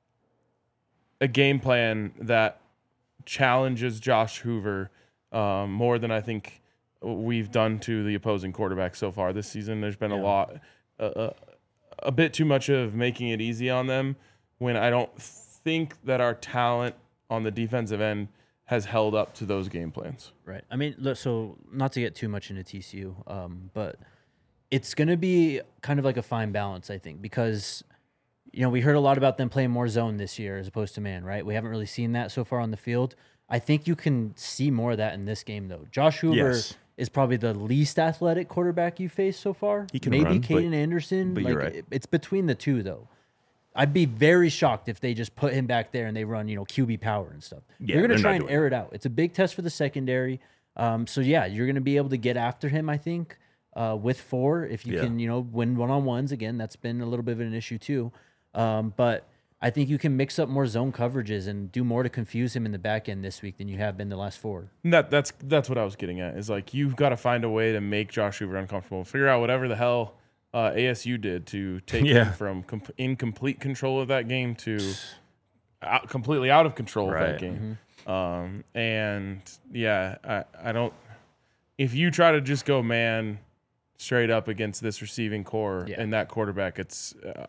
game plan that challenges Josh Hoover more than I think we've done to the opposing quarterback so far this season. There's been a bit too much of making it easy on them when I don't think that our talent on the defensive end has held up to those game plans. Right. I mean, look, so not to get too much into TCU, but it's going to be kind of like a fine balance, I think, because we heard a lot about them playing more zone this year as opposed to man, right? We haven't really seen that so far on the field. I think you can see more of that in this game, though. Josh Hoover is probably the least athletic quarterback you faced so far. He can maybe run, Caden Anderson. but you're right. It's between the two, though. I'd be very shocked if they just put him back there and they run, QB power and stuff. Yeah, you're going to try not and doing air it out. It's a big test for the secondary. So, yeah, you're going to be able to get after him, I think, with 4. If you can, win one-on-ones. Again, that's been a little bit of an issue too. But I think you can mix up more zone coverages and do more to confuse him in the back end this week than you have been the last 4. That's what I was getting at, is like you've got to find a way to make Josh Hoover uncomfortable. Figure out whatever the hell ASU did to take him from incomplete control of that game to completely out of control of that game. And I don't. If you try to just go man straight up against this receiving core and that quarterback, it's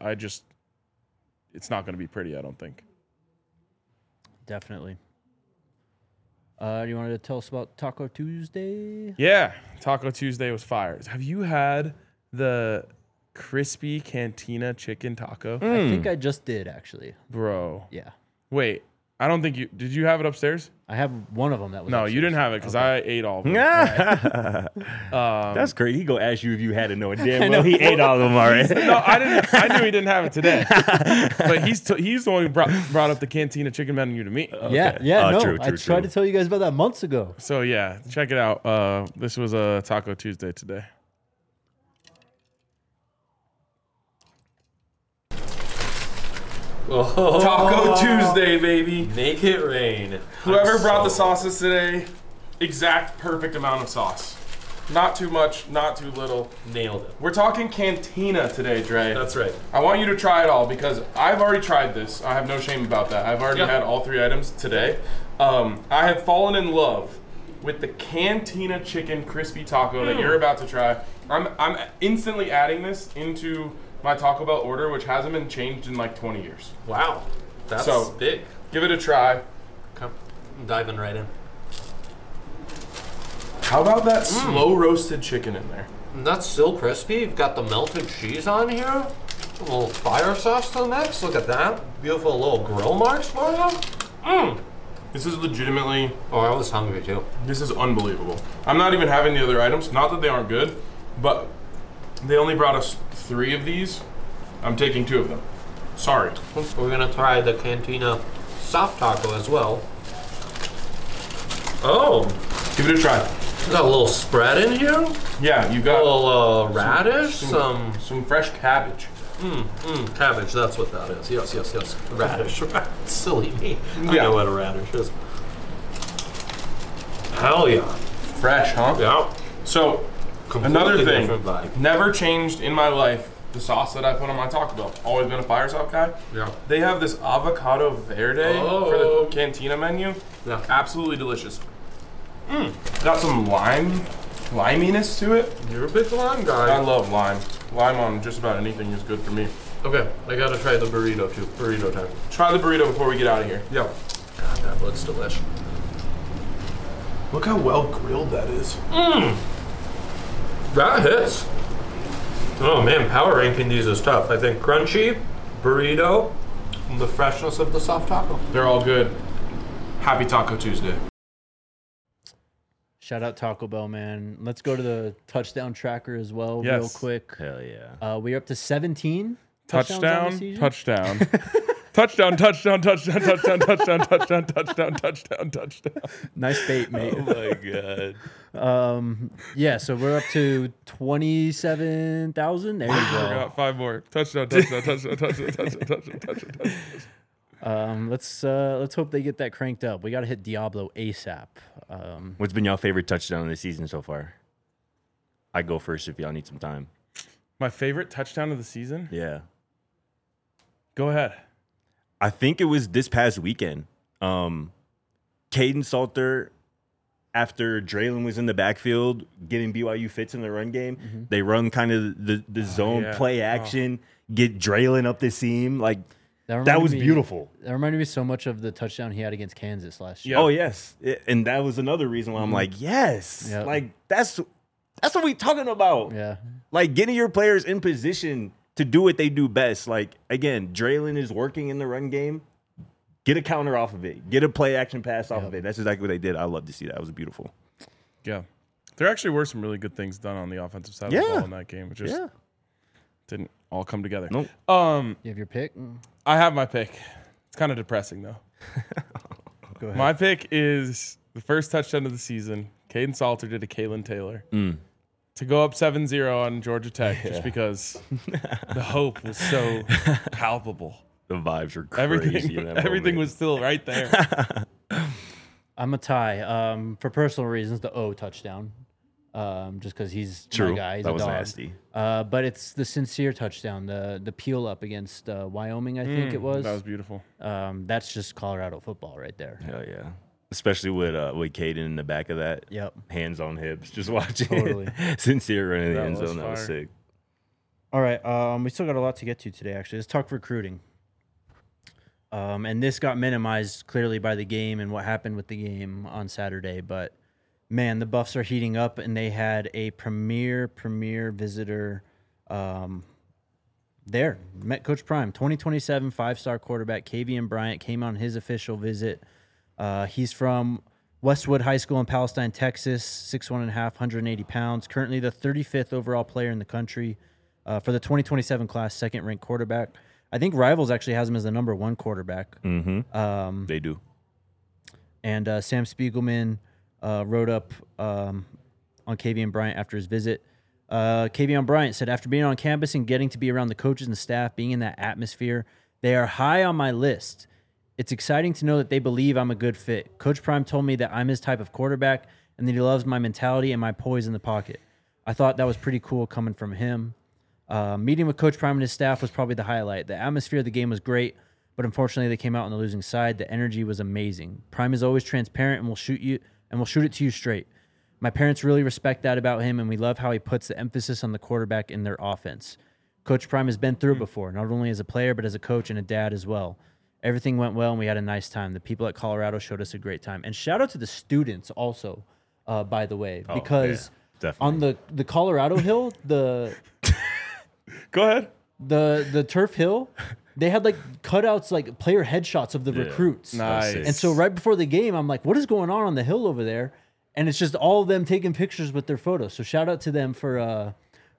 not going to be pretty, I don't think. Definitely. You wanted to tell us about Taco Tuesday? Yeah, Taco Tuesday was fire. Have you had the crispy Cantina chicken taco? I think I just did, actually. Bro. Yeah. Wait, I don't think did you have it upstairs? I have one of them that was No, upstairs. you didn't have it because I ate all of them. That's crazy. He go ask you if you had it, knowing damn well he ate all of them already. No, I didn't. I knew he didn't have it today. But he's the one who brought up the Cantina chicken menu to me. Yeah, True, I tried to tell you guys about that months ago. So yeah, check it out. This was a Taco Tuesday today. Oh, Taco Tuesday, baby. Make it rain. Whoever brought the sauces today, exact perfect amount of sauce. Not too much, not too little. Nailed it. We're talking Cantina today, Dre. That's right. I want you to try it all because I've already tried this. I have no shame about that. I've already had all 3 items today. I have fallen in love with the Cantina chicken crispy taco that you're about to try. I'm instantly adding this into my Taco Bell order, which hasn't been changed in like 20 years. Wow. That's So, big. Give it a try. I'm diving right in. How about that slow roasted chicken in there? And that's still crispy. You've got the melted cheese on here. A little fire sauce to the mix. Look at that. Beautiful little grill marks for you. This is legitimately, Oh, I was hungry too. this is unbelievable. I'm not even having the other items. Not that they aren't good, but they only brought us 3 of these. I'm taking 2 of them. Sorry. We're gonna try the Cantina soft taco as well. Oh, Give it a try. got a little spread in here. Yeah, you A got little radish. some fresh cabbage. Cabbage, that's what that is. Yes. Radish. Silly me. I know what a radish is. Hell yeah. Fresh, huh? Yeah. So, Completely another thing, different vibe. never changed in my life, the sauce that I put on my Taco Bell. Always been a fire sauce guy. Yeah. They have this avocado verde for the cantina menu. Yeah. Absolutely delicious. Got some liminess to it. You're a big lime I guy. love lime. Lime on just about anything is good for me. Okay, I gotta try the burrito too. Burrito time. Try the burrito before we get out of here. Yeah. God, that looks delicious. Look how well grilled that is. That hits. Oh man, power ranking these is tough. I think crunchy, burrito, and the freshness of the soft taco. They're all good. Happy Taco Tuesday. Shout out Taco Bell, man. Let's go to the touchdown tracker as well, real Yes. quick. Hell yeah. We're up to 17 touchdowns on the season. Touchdown. Touchdown. Nice bait, mate. Oh my god. Yeah, so we're up to 27,000. There you go. Got 5 more. Touchdown. Let's hope they get that cranked up. We got to hit Diablo ASAP. What's been your favorite touchdown of the season so far? I go first if y'all need some time. My favorite touchdown of the season? Yeah. Go ahead. I think it was this past weekend. Caden Salter, after Draylon was in the backfield getting BYU fits in the run game, they run kind of the zone yeah. play action, get Draylon up the seam. Like, that reminded was me- beautiful. That reminded me so much of the touchdown he had against Kansas last year. Yeah. Oh, yes. And that was another reason why I'm like, yes. Yep. Like, that's what we talking about. Yeah. Like, getting your players in position to do what they do best. Like, again, Draylon is working in the run game. Get a counter off of it. Get a play action pass off of it. That's exactly what they did. I love to see that. It was beautiful. Yeah. There actually were some really good things done on the offensive side of the ball in that game. It just didn't all come together. Nope. You have your pick? I have my pick. It's kind of depressing, though. Go ahead. My pick is the first touchdown of the season. Caden Salter did a Kalen Taylor. To go up 7-0 on Georgia Tech just because the hope was so palpable. The vibes were crazy. Everything was still right there. I'm a tie. For personal reasons, the O touchdown. Just because he's True. my guy. He's That a was dog. nasty. But it's the sincere touchdown, the peel up against Wyoming, I think it was. That was beautiful. That's just Colorado football right there. Hell yeah. Especially with Caden in the back of that. Yep. Hands on hips. Just watching Totally. Sincere running the That end was zone. That was fire. sick. All right. We still got a lot to get to today, actually. Let's talk recruiting. And this got minimized clearly by the game and what happened with the game on Saturday. But, man, the Buffs are heating up, and they had a premier visitor there. Met Coach Prime, 2027 five-star quarterback Kavian Bryant came on his official visit. He's from Westwood High School in Palestine, Texas, 6'1.5", 180 pounds. Currently the 35th overall player in the country for the 2027 class, second-ranked quarterback. I think Rivals actually has him as the number 1 quarterback. They do. And Sam Spiegelman wrote up on Kavian Bryant after his visit. Kavian Bryant said, after being on campus and getting to be around the coaches and the staff, being in that atmosphere, they are high on my list. It's exciting to know that they believe I'm a good fit. Coach Prime told me that I'm his type of quarterback and that he loves my mentality and my poise in the pocket. I thought that was pretty cool coming from him. Meeting with Coach Prime and his staff was probably the highlight. The atmosphere of the game was great, but unfortunately they came out on the losing side. The energy was amazing. Prime is always transparent and will shoot it to you straight. My parents really respect that about him, and we love how he puts the emphasis on the quarterback in their offense. Coach Prime has been through it before, not only as a player, but as a coach and a dad as well. Everything went well, and we had a nice time. The people at Colorado showed us a great time. And shout out to the students also, by the way, because on the Colorado Hill, Go ahead. the turf hill, they had like cutouts, like player headshots of the recruits. Nice. And so right before the game, I'm like, what is going on the hill over there? And it's just all of them taking pictures with their photos. So shout out to them for,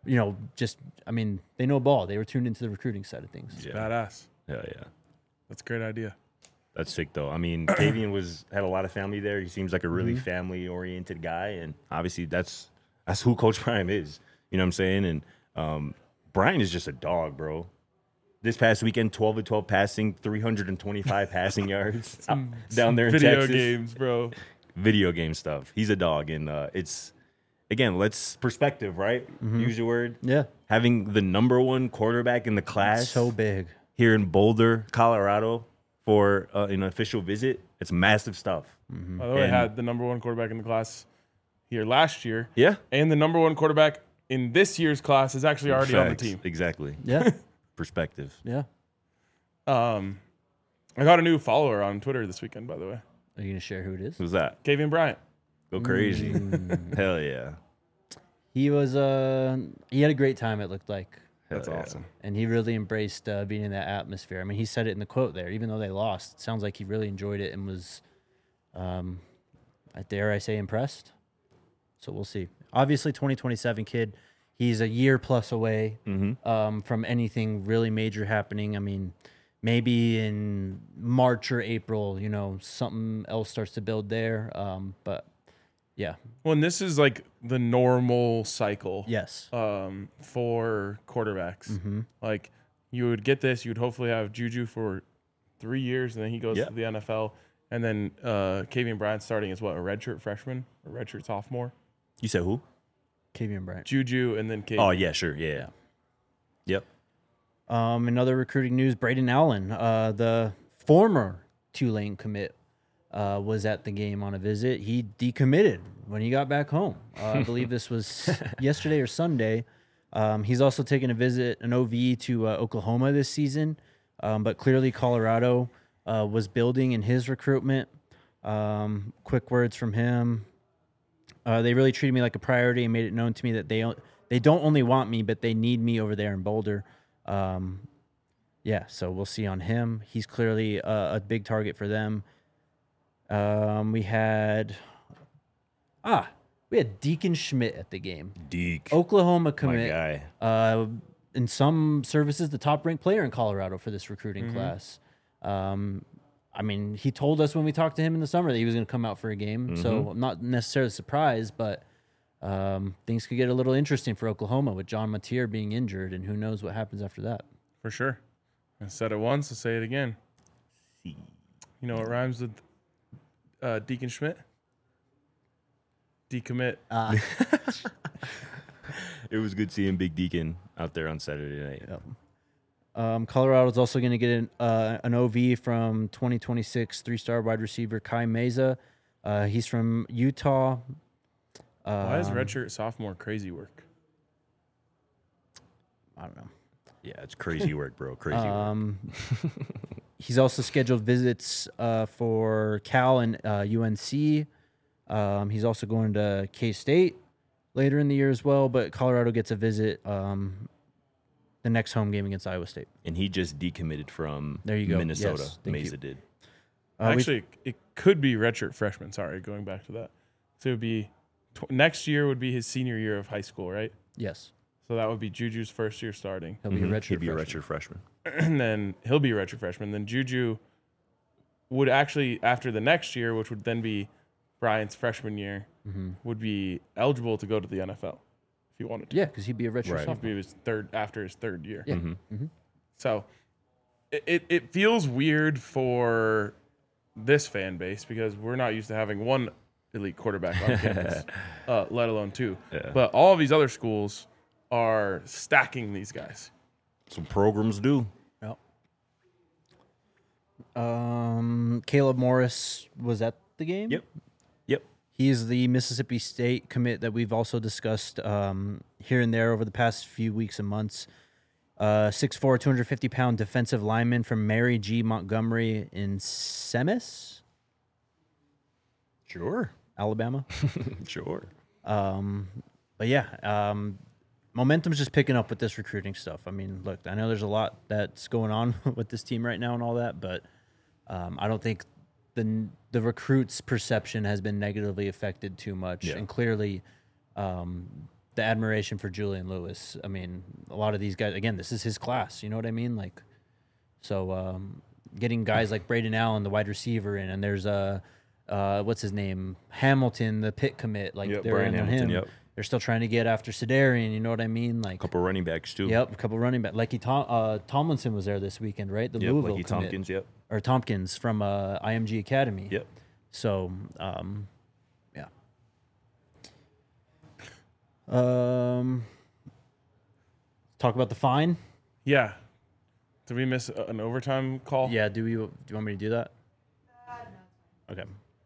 they know ball. They were tuned into the recruiting side of things. Yeah. Badass. Hell yeah. That's a great idea. That's sick, though. I mean, Kavian had a lot of family there. He seems like a really family-oriented guy, and obviously that's who Coach Prime is. You know what I'm saying? And Brian is just a dog, bro. this past weekend, 12 of 12 passing, 325 passing yards down there in Video Texas. games, bro. Video game stuff. He's a dog, and it's again, let's perspective, right? Use your word. Yeah. Having the number 1 quarterback in the class So big. here in Boulder, Colorado, for an official visit, it's massive stuff. By the way, I And- had the number 1 quarterback in the class here last year. Yeah. And the number 1 quarterback in this year's class is actually already on the Facts. team. Exactly. Yeah. Perspective. Yeah. I got a new follower on Twitter this weekend, by the way. Are you going to share who it is? Who's that? Kavian Bryant. Go crazy. Hell yeah. He was he had a great time, it looked like. That's Hell yeah. awesome. And he really embraced being in that atmosphere. I mean, he said it in the quote there. Even though they lost, it sounds like he really enjoyed it and was, dare I say, impressed. So we'll see. Obviously, 2027 kid. He's a year plus away from anything really major happening. I mean, maybe in March or April, something else starts to build there. But yeah, Well, and this is like the normal cycle. yes, For quarterbacks. Mm-hmm. Like you would get this, you would hopefully have Juju for 3 years, and then he goes Yeah. to the NFL, and then Kavian Bryant starting as what, a redshirt freshman, a redshirt sophomore, You said who? Kavian Bryant. Juju, and then Kavian. Oh, yeah, sure. Yeah. Yep. In other recruiting news, Braden Allen, the former Tulane commit, was at the game on a visit. He decommitted when he got back home. I believe this was yesterday or Sunday. He's also taken an OV to Oklahoma this season, but clearly Colorado was building in his recruitment. Quick words from him. They really treated me like a priority and made it known to me that they don't only want me, but they need me over there in Boulder. So we'll see on him. He's clearly a big target for them. We had Deacon Schmidt at the game. Deke. Oklahoma my commit. guy. In some services, the top ranked player in Colorado for this recruiting class. I mean, he told us when we talked to him in the summer that he was going to come out for a game. So I'm not necessarily surprised, but things could get a little interesting for Oklahoma with John Mateer being injured, and who knows what happens after that. For sure. I said it once, I'll say it again. You know what rhymes with Deacon Schmidt? Decommit. It was good seeing Big Deacon out there on Saturday night. Colorado's also going to get an OV from 2026 three-star wide receiver Kai Meza. He's from Utah. Why is redshirt sophomore crazy work? I don't know. Yeah, it's crazy work, bro. Crazy work. He's also scheduled visits for Cal and UNC. He's also going to K-State later in the year as well, but Colorado gets a visit the next home game against Iowa State. And he just decommitted from There you go. Minnesota. Yes, thank Mesa you. did. Actually, it could be redshirt freshman. Sorry, going back to that. So it would be next year would be his senior year of high school, right? Yes. So that would be Juju's first year starting. He'll be a redshirt He'd be a freshman. redshirt freshman. And then he'll be a redshirt freshman. Then Juju would actually, after the next year, which would then be Bryant's freshman year, would be eligible to go to the NFL if he wanted to. Yeah, because he'd be a redshirt Right. sophomore. He'd be after his third year. Yeah. So it feels weird for this fan base because we're not used to having one elite quarterback on campus, let alone two. Yeah. But all of these other schools are stacking these guys. Some programs do. Yep. Caleb Morris was at the game. Yep. He's the Mississippi State commit that we've also discussed here and there over the past few weeks and months. 6'4", 250-pound defensive lineman from Mary G. Montgomery in Semmes, Sure. Alabama. Sure. But yeah, momentum's just picking up with this recruiting stuff. I mean, look, I know there's a lot that's going on with this team right now and all that, but I don't think the recruits' perception has been negatively affected too much. Yeah. And clearly, the admiration for Julian Lewis. I mean, a lot of these guys, again, this is his class. You know what I mean? Like, so getting guys like Braden Allen, the wide receiver, in, and there's what's his name, Hamilton, the Pitt commit. Like Yep, they're Brian in on Hamilton, him. yep. they're still trying to get after Sedarian. You know what I mean? Like, A couple running backs too. yep, a couple running back. Tomlinson was there this weekend, right? The Yep, Louisville Lucky commit. Tompkins. Yep. Or Tompkins from IMG Academy. Yep. So, yeah. Talk about the fine. Yeah. Did we miss an overtime call? Yeah. Do you want me to do that? Okay.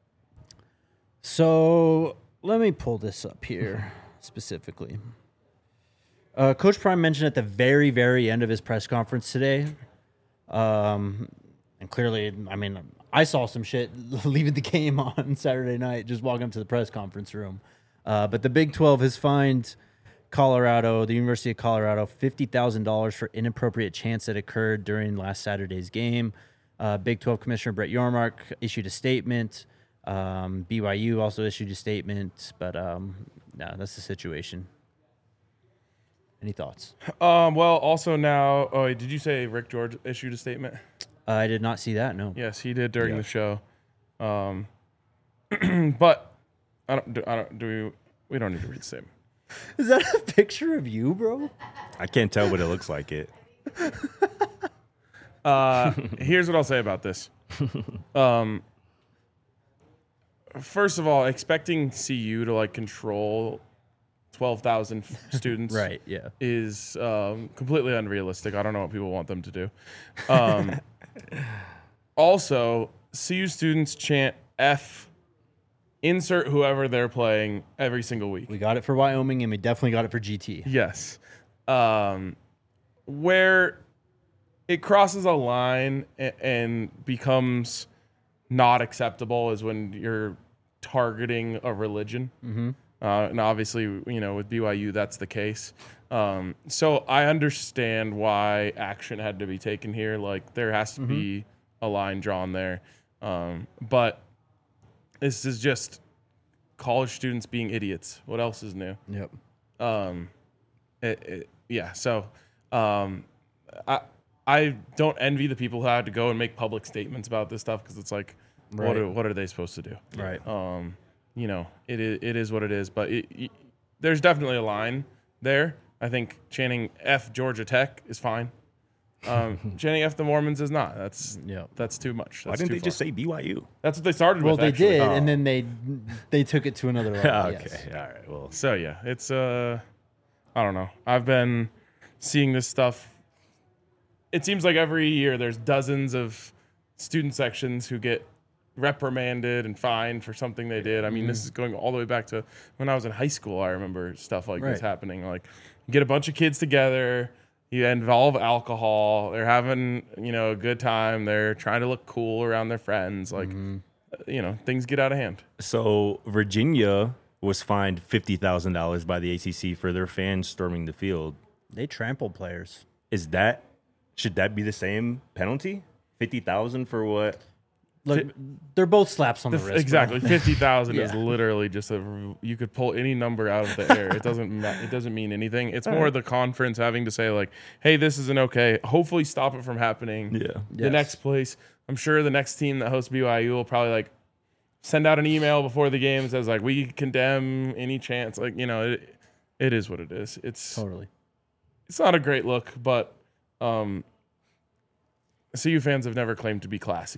So let me pull this up here specifically. Coach Prime mentioned at the very, very end of his press conference today, and clearly, I mean, I saw some shit leaving the game on Saturday night, just walking up to the press conference room. But the Big 12 has fined Colorado, the University of Colorado, $50,000 for inappropriate chants that occurred during last Saturday's game. Big 12 Commissioner Brett Yormark issued a statement. BYU also issued a statement, but no, that's the situation. Any thoughts? Well, also now, did you say Rick George issued a statement? I did not see that. No. Yes, he did during Yeah. the show. But we don't need to read the statement. Is that a picture of you, bro? I can't tell, but it looks like it. Here's what I'll say about this. First of all, expecting CU to like control 12,000 students Right. Yeah. is completely unrealistic. I don't know what people want them to do. Also, CU students chant F, insert whoever they're playing every single week. We got it for Wyoming, and we definitely got it for GT. Yes. Where it crosses a line and becomes not acceptable is when you're targeting a religion. Mm-hmm. And obviously, with BYU, that's the case. So I understand why action had to be taken here. Like, there has to be a line drawn there. But this is just college students being idiots. What else is new? Yep. Yeah. So, I don't envy the people who had to go and make public statements about this stuff, because it's like, Right. what are they supposed to do? Right. It is what it is. But there's definitely a line there. I think chanting F Georgia Tech is fine. Chanting F the Mormons is not. That's too much. Why That's didn't too they just far. say BYU? That's what they started Well, with. they actually. did, and then they took it to another level. Okay. Yes. All right. Well, So yeah, it's I don't know. I've been seeing this stuff. It seems like every year there's dozens of student sections who get reprimanded and fined for something they did. I mean, this is going all the way back to when I was in high school. I remember stuff like this Right. happening. Like, you get a bunch of kids together, you involve alcohol, they're having, a good time, they're trying to look cool around their friends. Like, things get out of hand. so Virginia was fined $50,000 by the ACC for their fans storming the field. They trampled players. Should that be the same penalty? 50,000 for what? Look, they're both slaps on the wrist. bro. Exactly. 50,000 is Yeah. literally just you could pull any number out of the air. It doesn't mean anything. It's more the conference having to say, like, hey, this isn't okay. Hopefully stop it from happening. Yeah. The Yes. next place, I'm sure the next team that hosts BYU will probably like send out an email before the game that says, like, we condemn any chance. Like, it is what it is. It's Totally. not a great look, but CU fans have never claimed to be classy.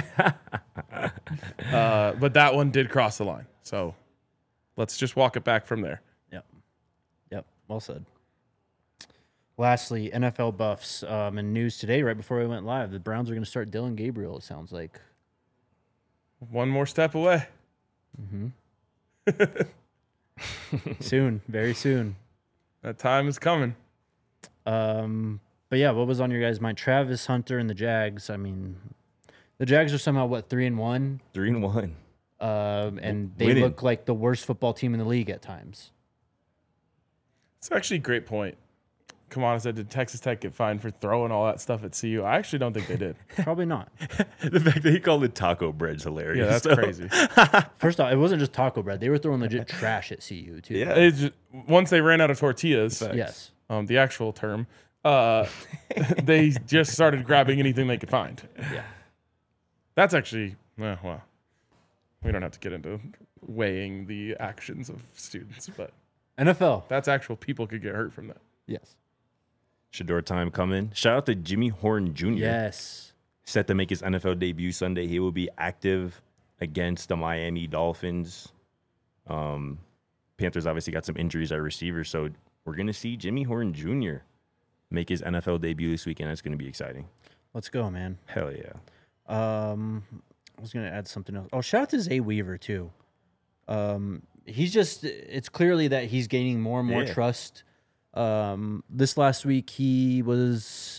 But that one did cross the line. So let's just walk it back from there. Yep. Well said. Lastly, NFL buffs. In news today, right before we went live, the Browns are going to start Dylan Gabriel, it sounds like. One more step away. Soon. Very soon. That time is coming. But yeah, what was on your guys' mind? Travis Hunter and the Jags. I mean, the Jags are somehow 3-1, 3-1. and they Winning. look like the worst football team in the league at times. It's actually a great point. Come on, I said, did Texas Tech get fined for throwing all that stuff at CU? I actually don't think they did. Probably not. The fact that he called it taco bread's hilarious. Yeah, that's crazy. First off, it wasn't just taco bread; they were throwing legit trash at CU too. Yeah. It's just, once they ran out of tortillas, Yes. the actual term, they just started grabbing anything they could find. Yeah. That's actually, we don't have to get into weighing the actions of students, but NFL. That's actual people could get hurt from that. Yes. Shador time coming. Shout out to Jimmy Horn Jr. Yes. Set to make his NFL debut Sunday. He will be active against the Miami Dolphins. Panthers obviously got some injuries at receiver, so we're going to see Jimmy Horn Jr. make his NFL debut this weekend. That's going to be exciting. Let's go, man. Hell yeah. I was going to add something else. Oh, shout out to Zay Weaver, too. It's clearly that he's gaining more and more trust. This last week, he was,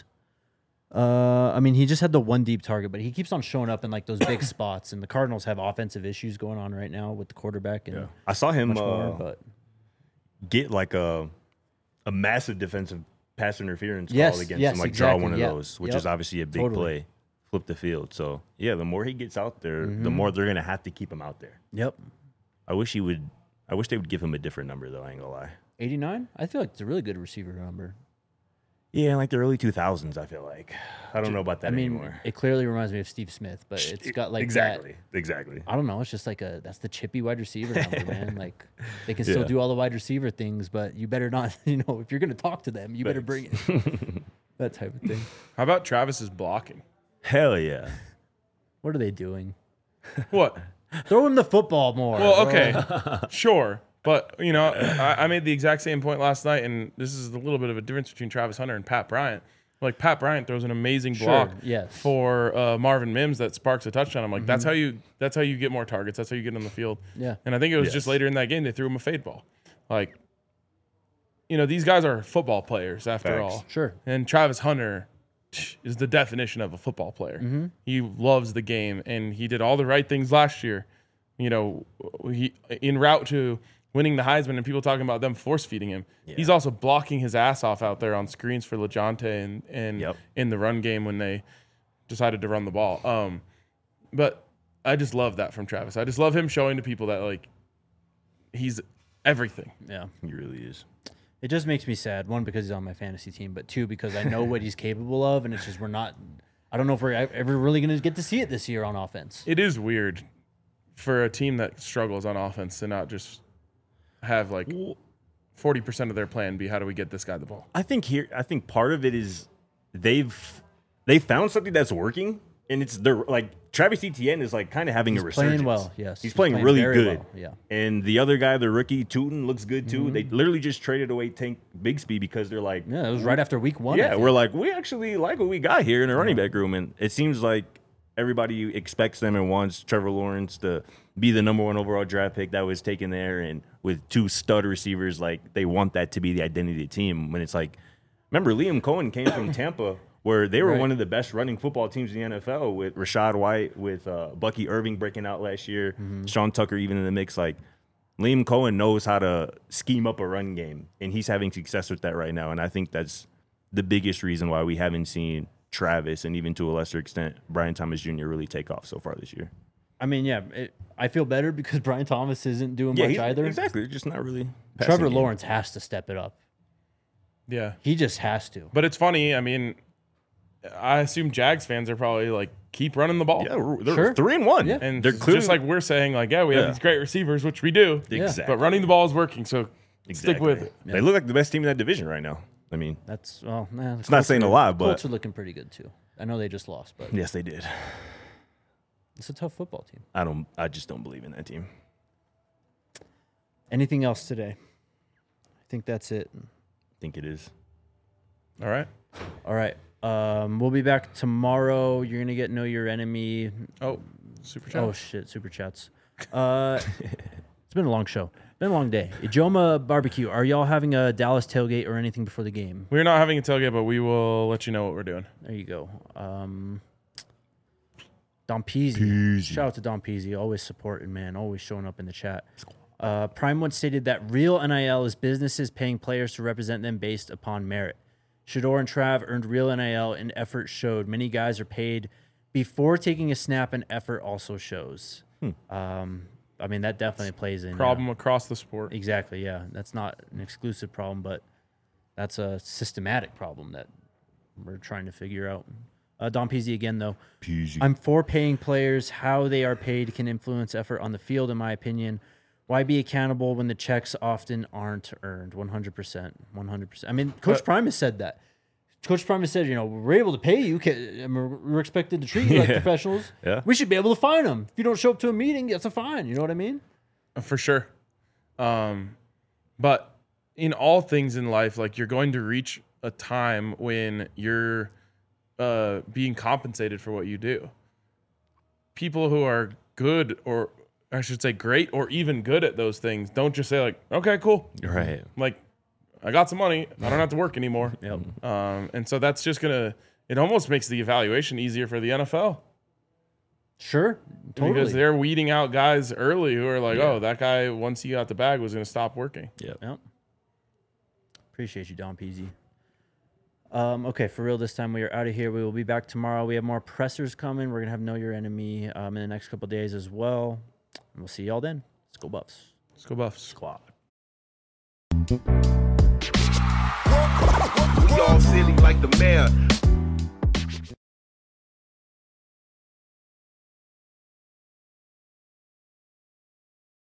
he just had the one deep target, but he keeps on showing up in like those big spots. And the Cardinals have offensive issues going on right now with the quarterback. And I saw him but get like a massive defensive pass interference call against him, like draw one of those, which is obviously a big play, flip the field. So yeah, the more he gets out there, the more they're gonna have to keep him out there. Yep. I wish they would give him a different number though. I ain't gonna lie. 89? I feel like it's a really good receiver number. Yeah, like the early 2000s. I feel like I don't know about that anymore. It clearly reminds me of Steve Smith, but it's got like exactly. I don't know. It's just like that's the chippy wide receiver number, man. Like they can still do all the wide receiver things, but you better not. If you're gonna talk to them, you better bring it. That type of thing. How about Travis's blocking? Hell yeah. What are they doing? What? Throw him the football more. Well, okay, sure. But, I made the exact same point last night, and this is a little bit of a difference between Travis Hunter and Pat Bryant. Like, Pat Bryant throws an amazing block for Marvin Mims that sparks a touchdown. I'm like, that's how you get more targets. That's how you get on the field. Yeah. And I think it was just later in that game they threw him a fade ball. Like, these guys are football players after all. Sure. And Travis Hunter is the definition of a football player. Mm-hmm. He loves the game, and he did all the right things last year. He en route to winning the Heisman and people talking about them force feeding him. Yeah. He's also blocking his ass off out there on screens for LeJohntay and in the run game when they decided to run the ball. But I just love that from Travis. I just love him showing to people that like he's everything. Yeah, he really is. It just makes me sad. One, because he's on my fantasy team, but two, because I know what he's capable of, and it's just I don't know if we're ever really going to get to see it this year on offense. It is weird for a team that struggles on offense to not just have like 40% of their plan be how do we get this guy the ball. I think part of it is they found something that's working, and it's like Travis Etienne is like kind of having a resurgence. Playing well, yes. He's playing really good. Well, yeah. And the other guy, the rookie Tootin, looks good too. Mm-hmm. They literally just traded away Tank Bigsby because they're like, it was right after week 1. Yeah, we're like, we actually like what we got here in the running back room, and it seems like everybody expects them and wants Trevor Lawrence to be the number 1 overall draft pick that was taken there, and with 2 stud receivers, like they want that to be the identity of the team. When it's like, remember Liam Cohen came from Tampa, where they were one of the best running football teams in the NFL, with Rashad White, with Bucky Irving breaking out last year, Sean Tucker even in the mix. Like Liam Cohen knows how to scheme up a run game, and he's having success with that right now. And I think that's the biggest reason why we haven't seen Travis, and even to a lesser extent Brian Thomas Jr. really take off so far this year. I mean, I feel better because Brian Thomas isn't doing much either. Exactly. They're just not really. Trevor Lawrence has to step it up. Yeah. He just has to. But it's funny. I mean, I assume Jags fans are probably like, keep running the ball. Yeah, they're 3-1. Yeah. And they're clearly, just like we're saying, like, we have these great receivers, which we do. Exactly. But running the ball is working, so stick with it. They look like the best team in that division right now. I mean, it's not saying a lot, but Colts are looking pretty good too. I know they just lost, but yes, they did. It's a tough football team. I just don't believe in that team. Anything else today? I think that's it. I think it is. All right. We'll be back tomorrow. You're gonna get Know Your Enemy. Oh, super chat. Oh shit, super chats. It's been a long show. Been a long day. Ijoma Barbecue. Are y'all having a Dallas tailgate or anything before the game? We're not having a tailgate, but we will let you know what we're doing. There you go. Don Peasy. Shout out to Don Peasy. Always supporting, man. Always showing up in the chat. Prime once stated that real NIL is businesses paying players to represent them based upon merit. Shador and Trav earned real NIL, and effort showed. Many guys are paid before taking a snap, and effort also shows. I mean, that definitely plays in. Problem across the sport. Exactly, yeah. That's not an exclusive problem, but that's a systematic problem that we're trying to figure out. Don Peasy again, though. I'm for paying players. How they are paid can influence effort on the field, in my opinion. Why be accountable when the checks often aren't earned? 100%. 100%. I mean, Coach Primus said that. Coach Primus said, we're able to pay you. We're expected to treat you like professionals. Yeah. We should be able to fine them. If you don't show up to a meeting, that's a fine. You know what I mean? For sure. But in all things in life, like, you're going to reach a time when you're being compensated for what you do. People who are good, or I should say great, or even good at those things, don't just say like, okay, cool. Right. Like, I got some money. I don't have to work anymore. Yep. And so that's just it almost makes the evaluation easier for the NFL. Sure. Totally. Because they're weeding out guys early who are like, oh, that guy, once he got the bag, was going to stop working. Yep. Appreciate you, Don Peasy. Okay, for real this time, we are out of here. We will be back tomorrow. We have more pressers coming. We're going to have Know Your Enemy in the next couple of days as well. And we'll see y'all then. Let's go Buffs. Let's go Buffs. Squad. We all silly like the mayor.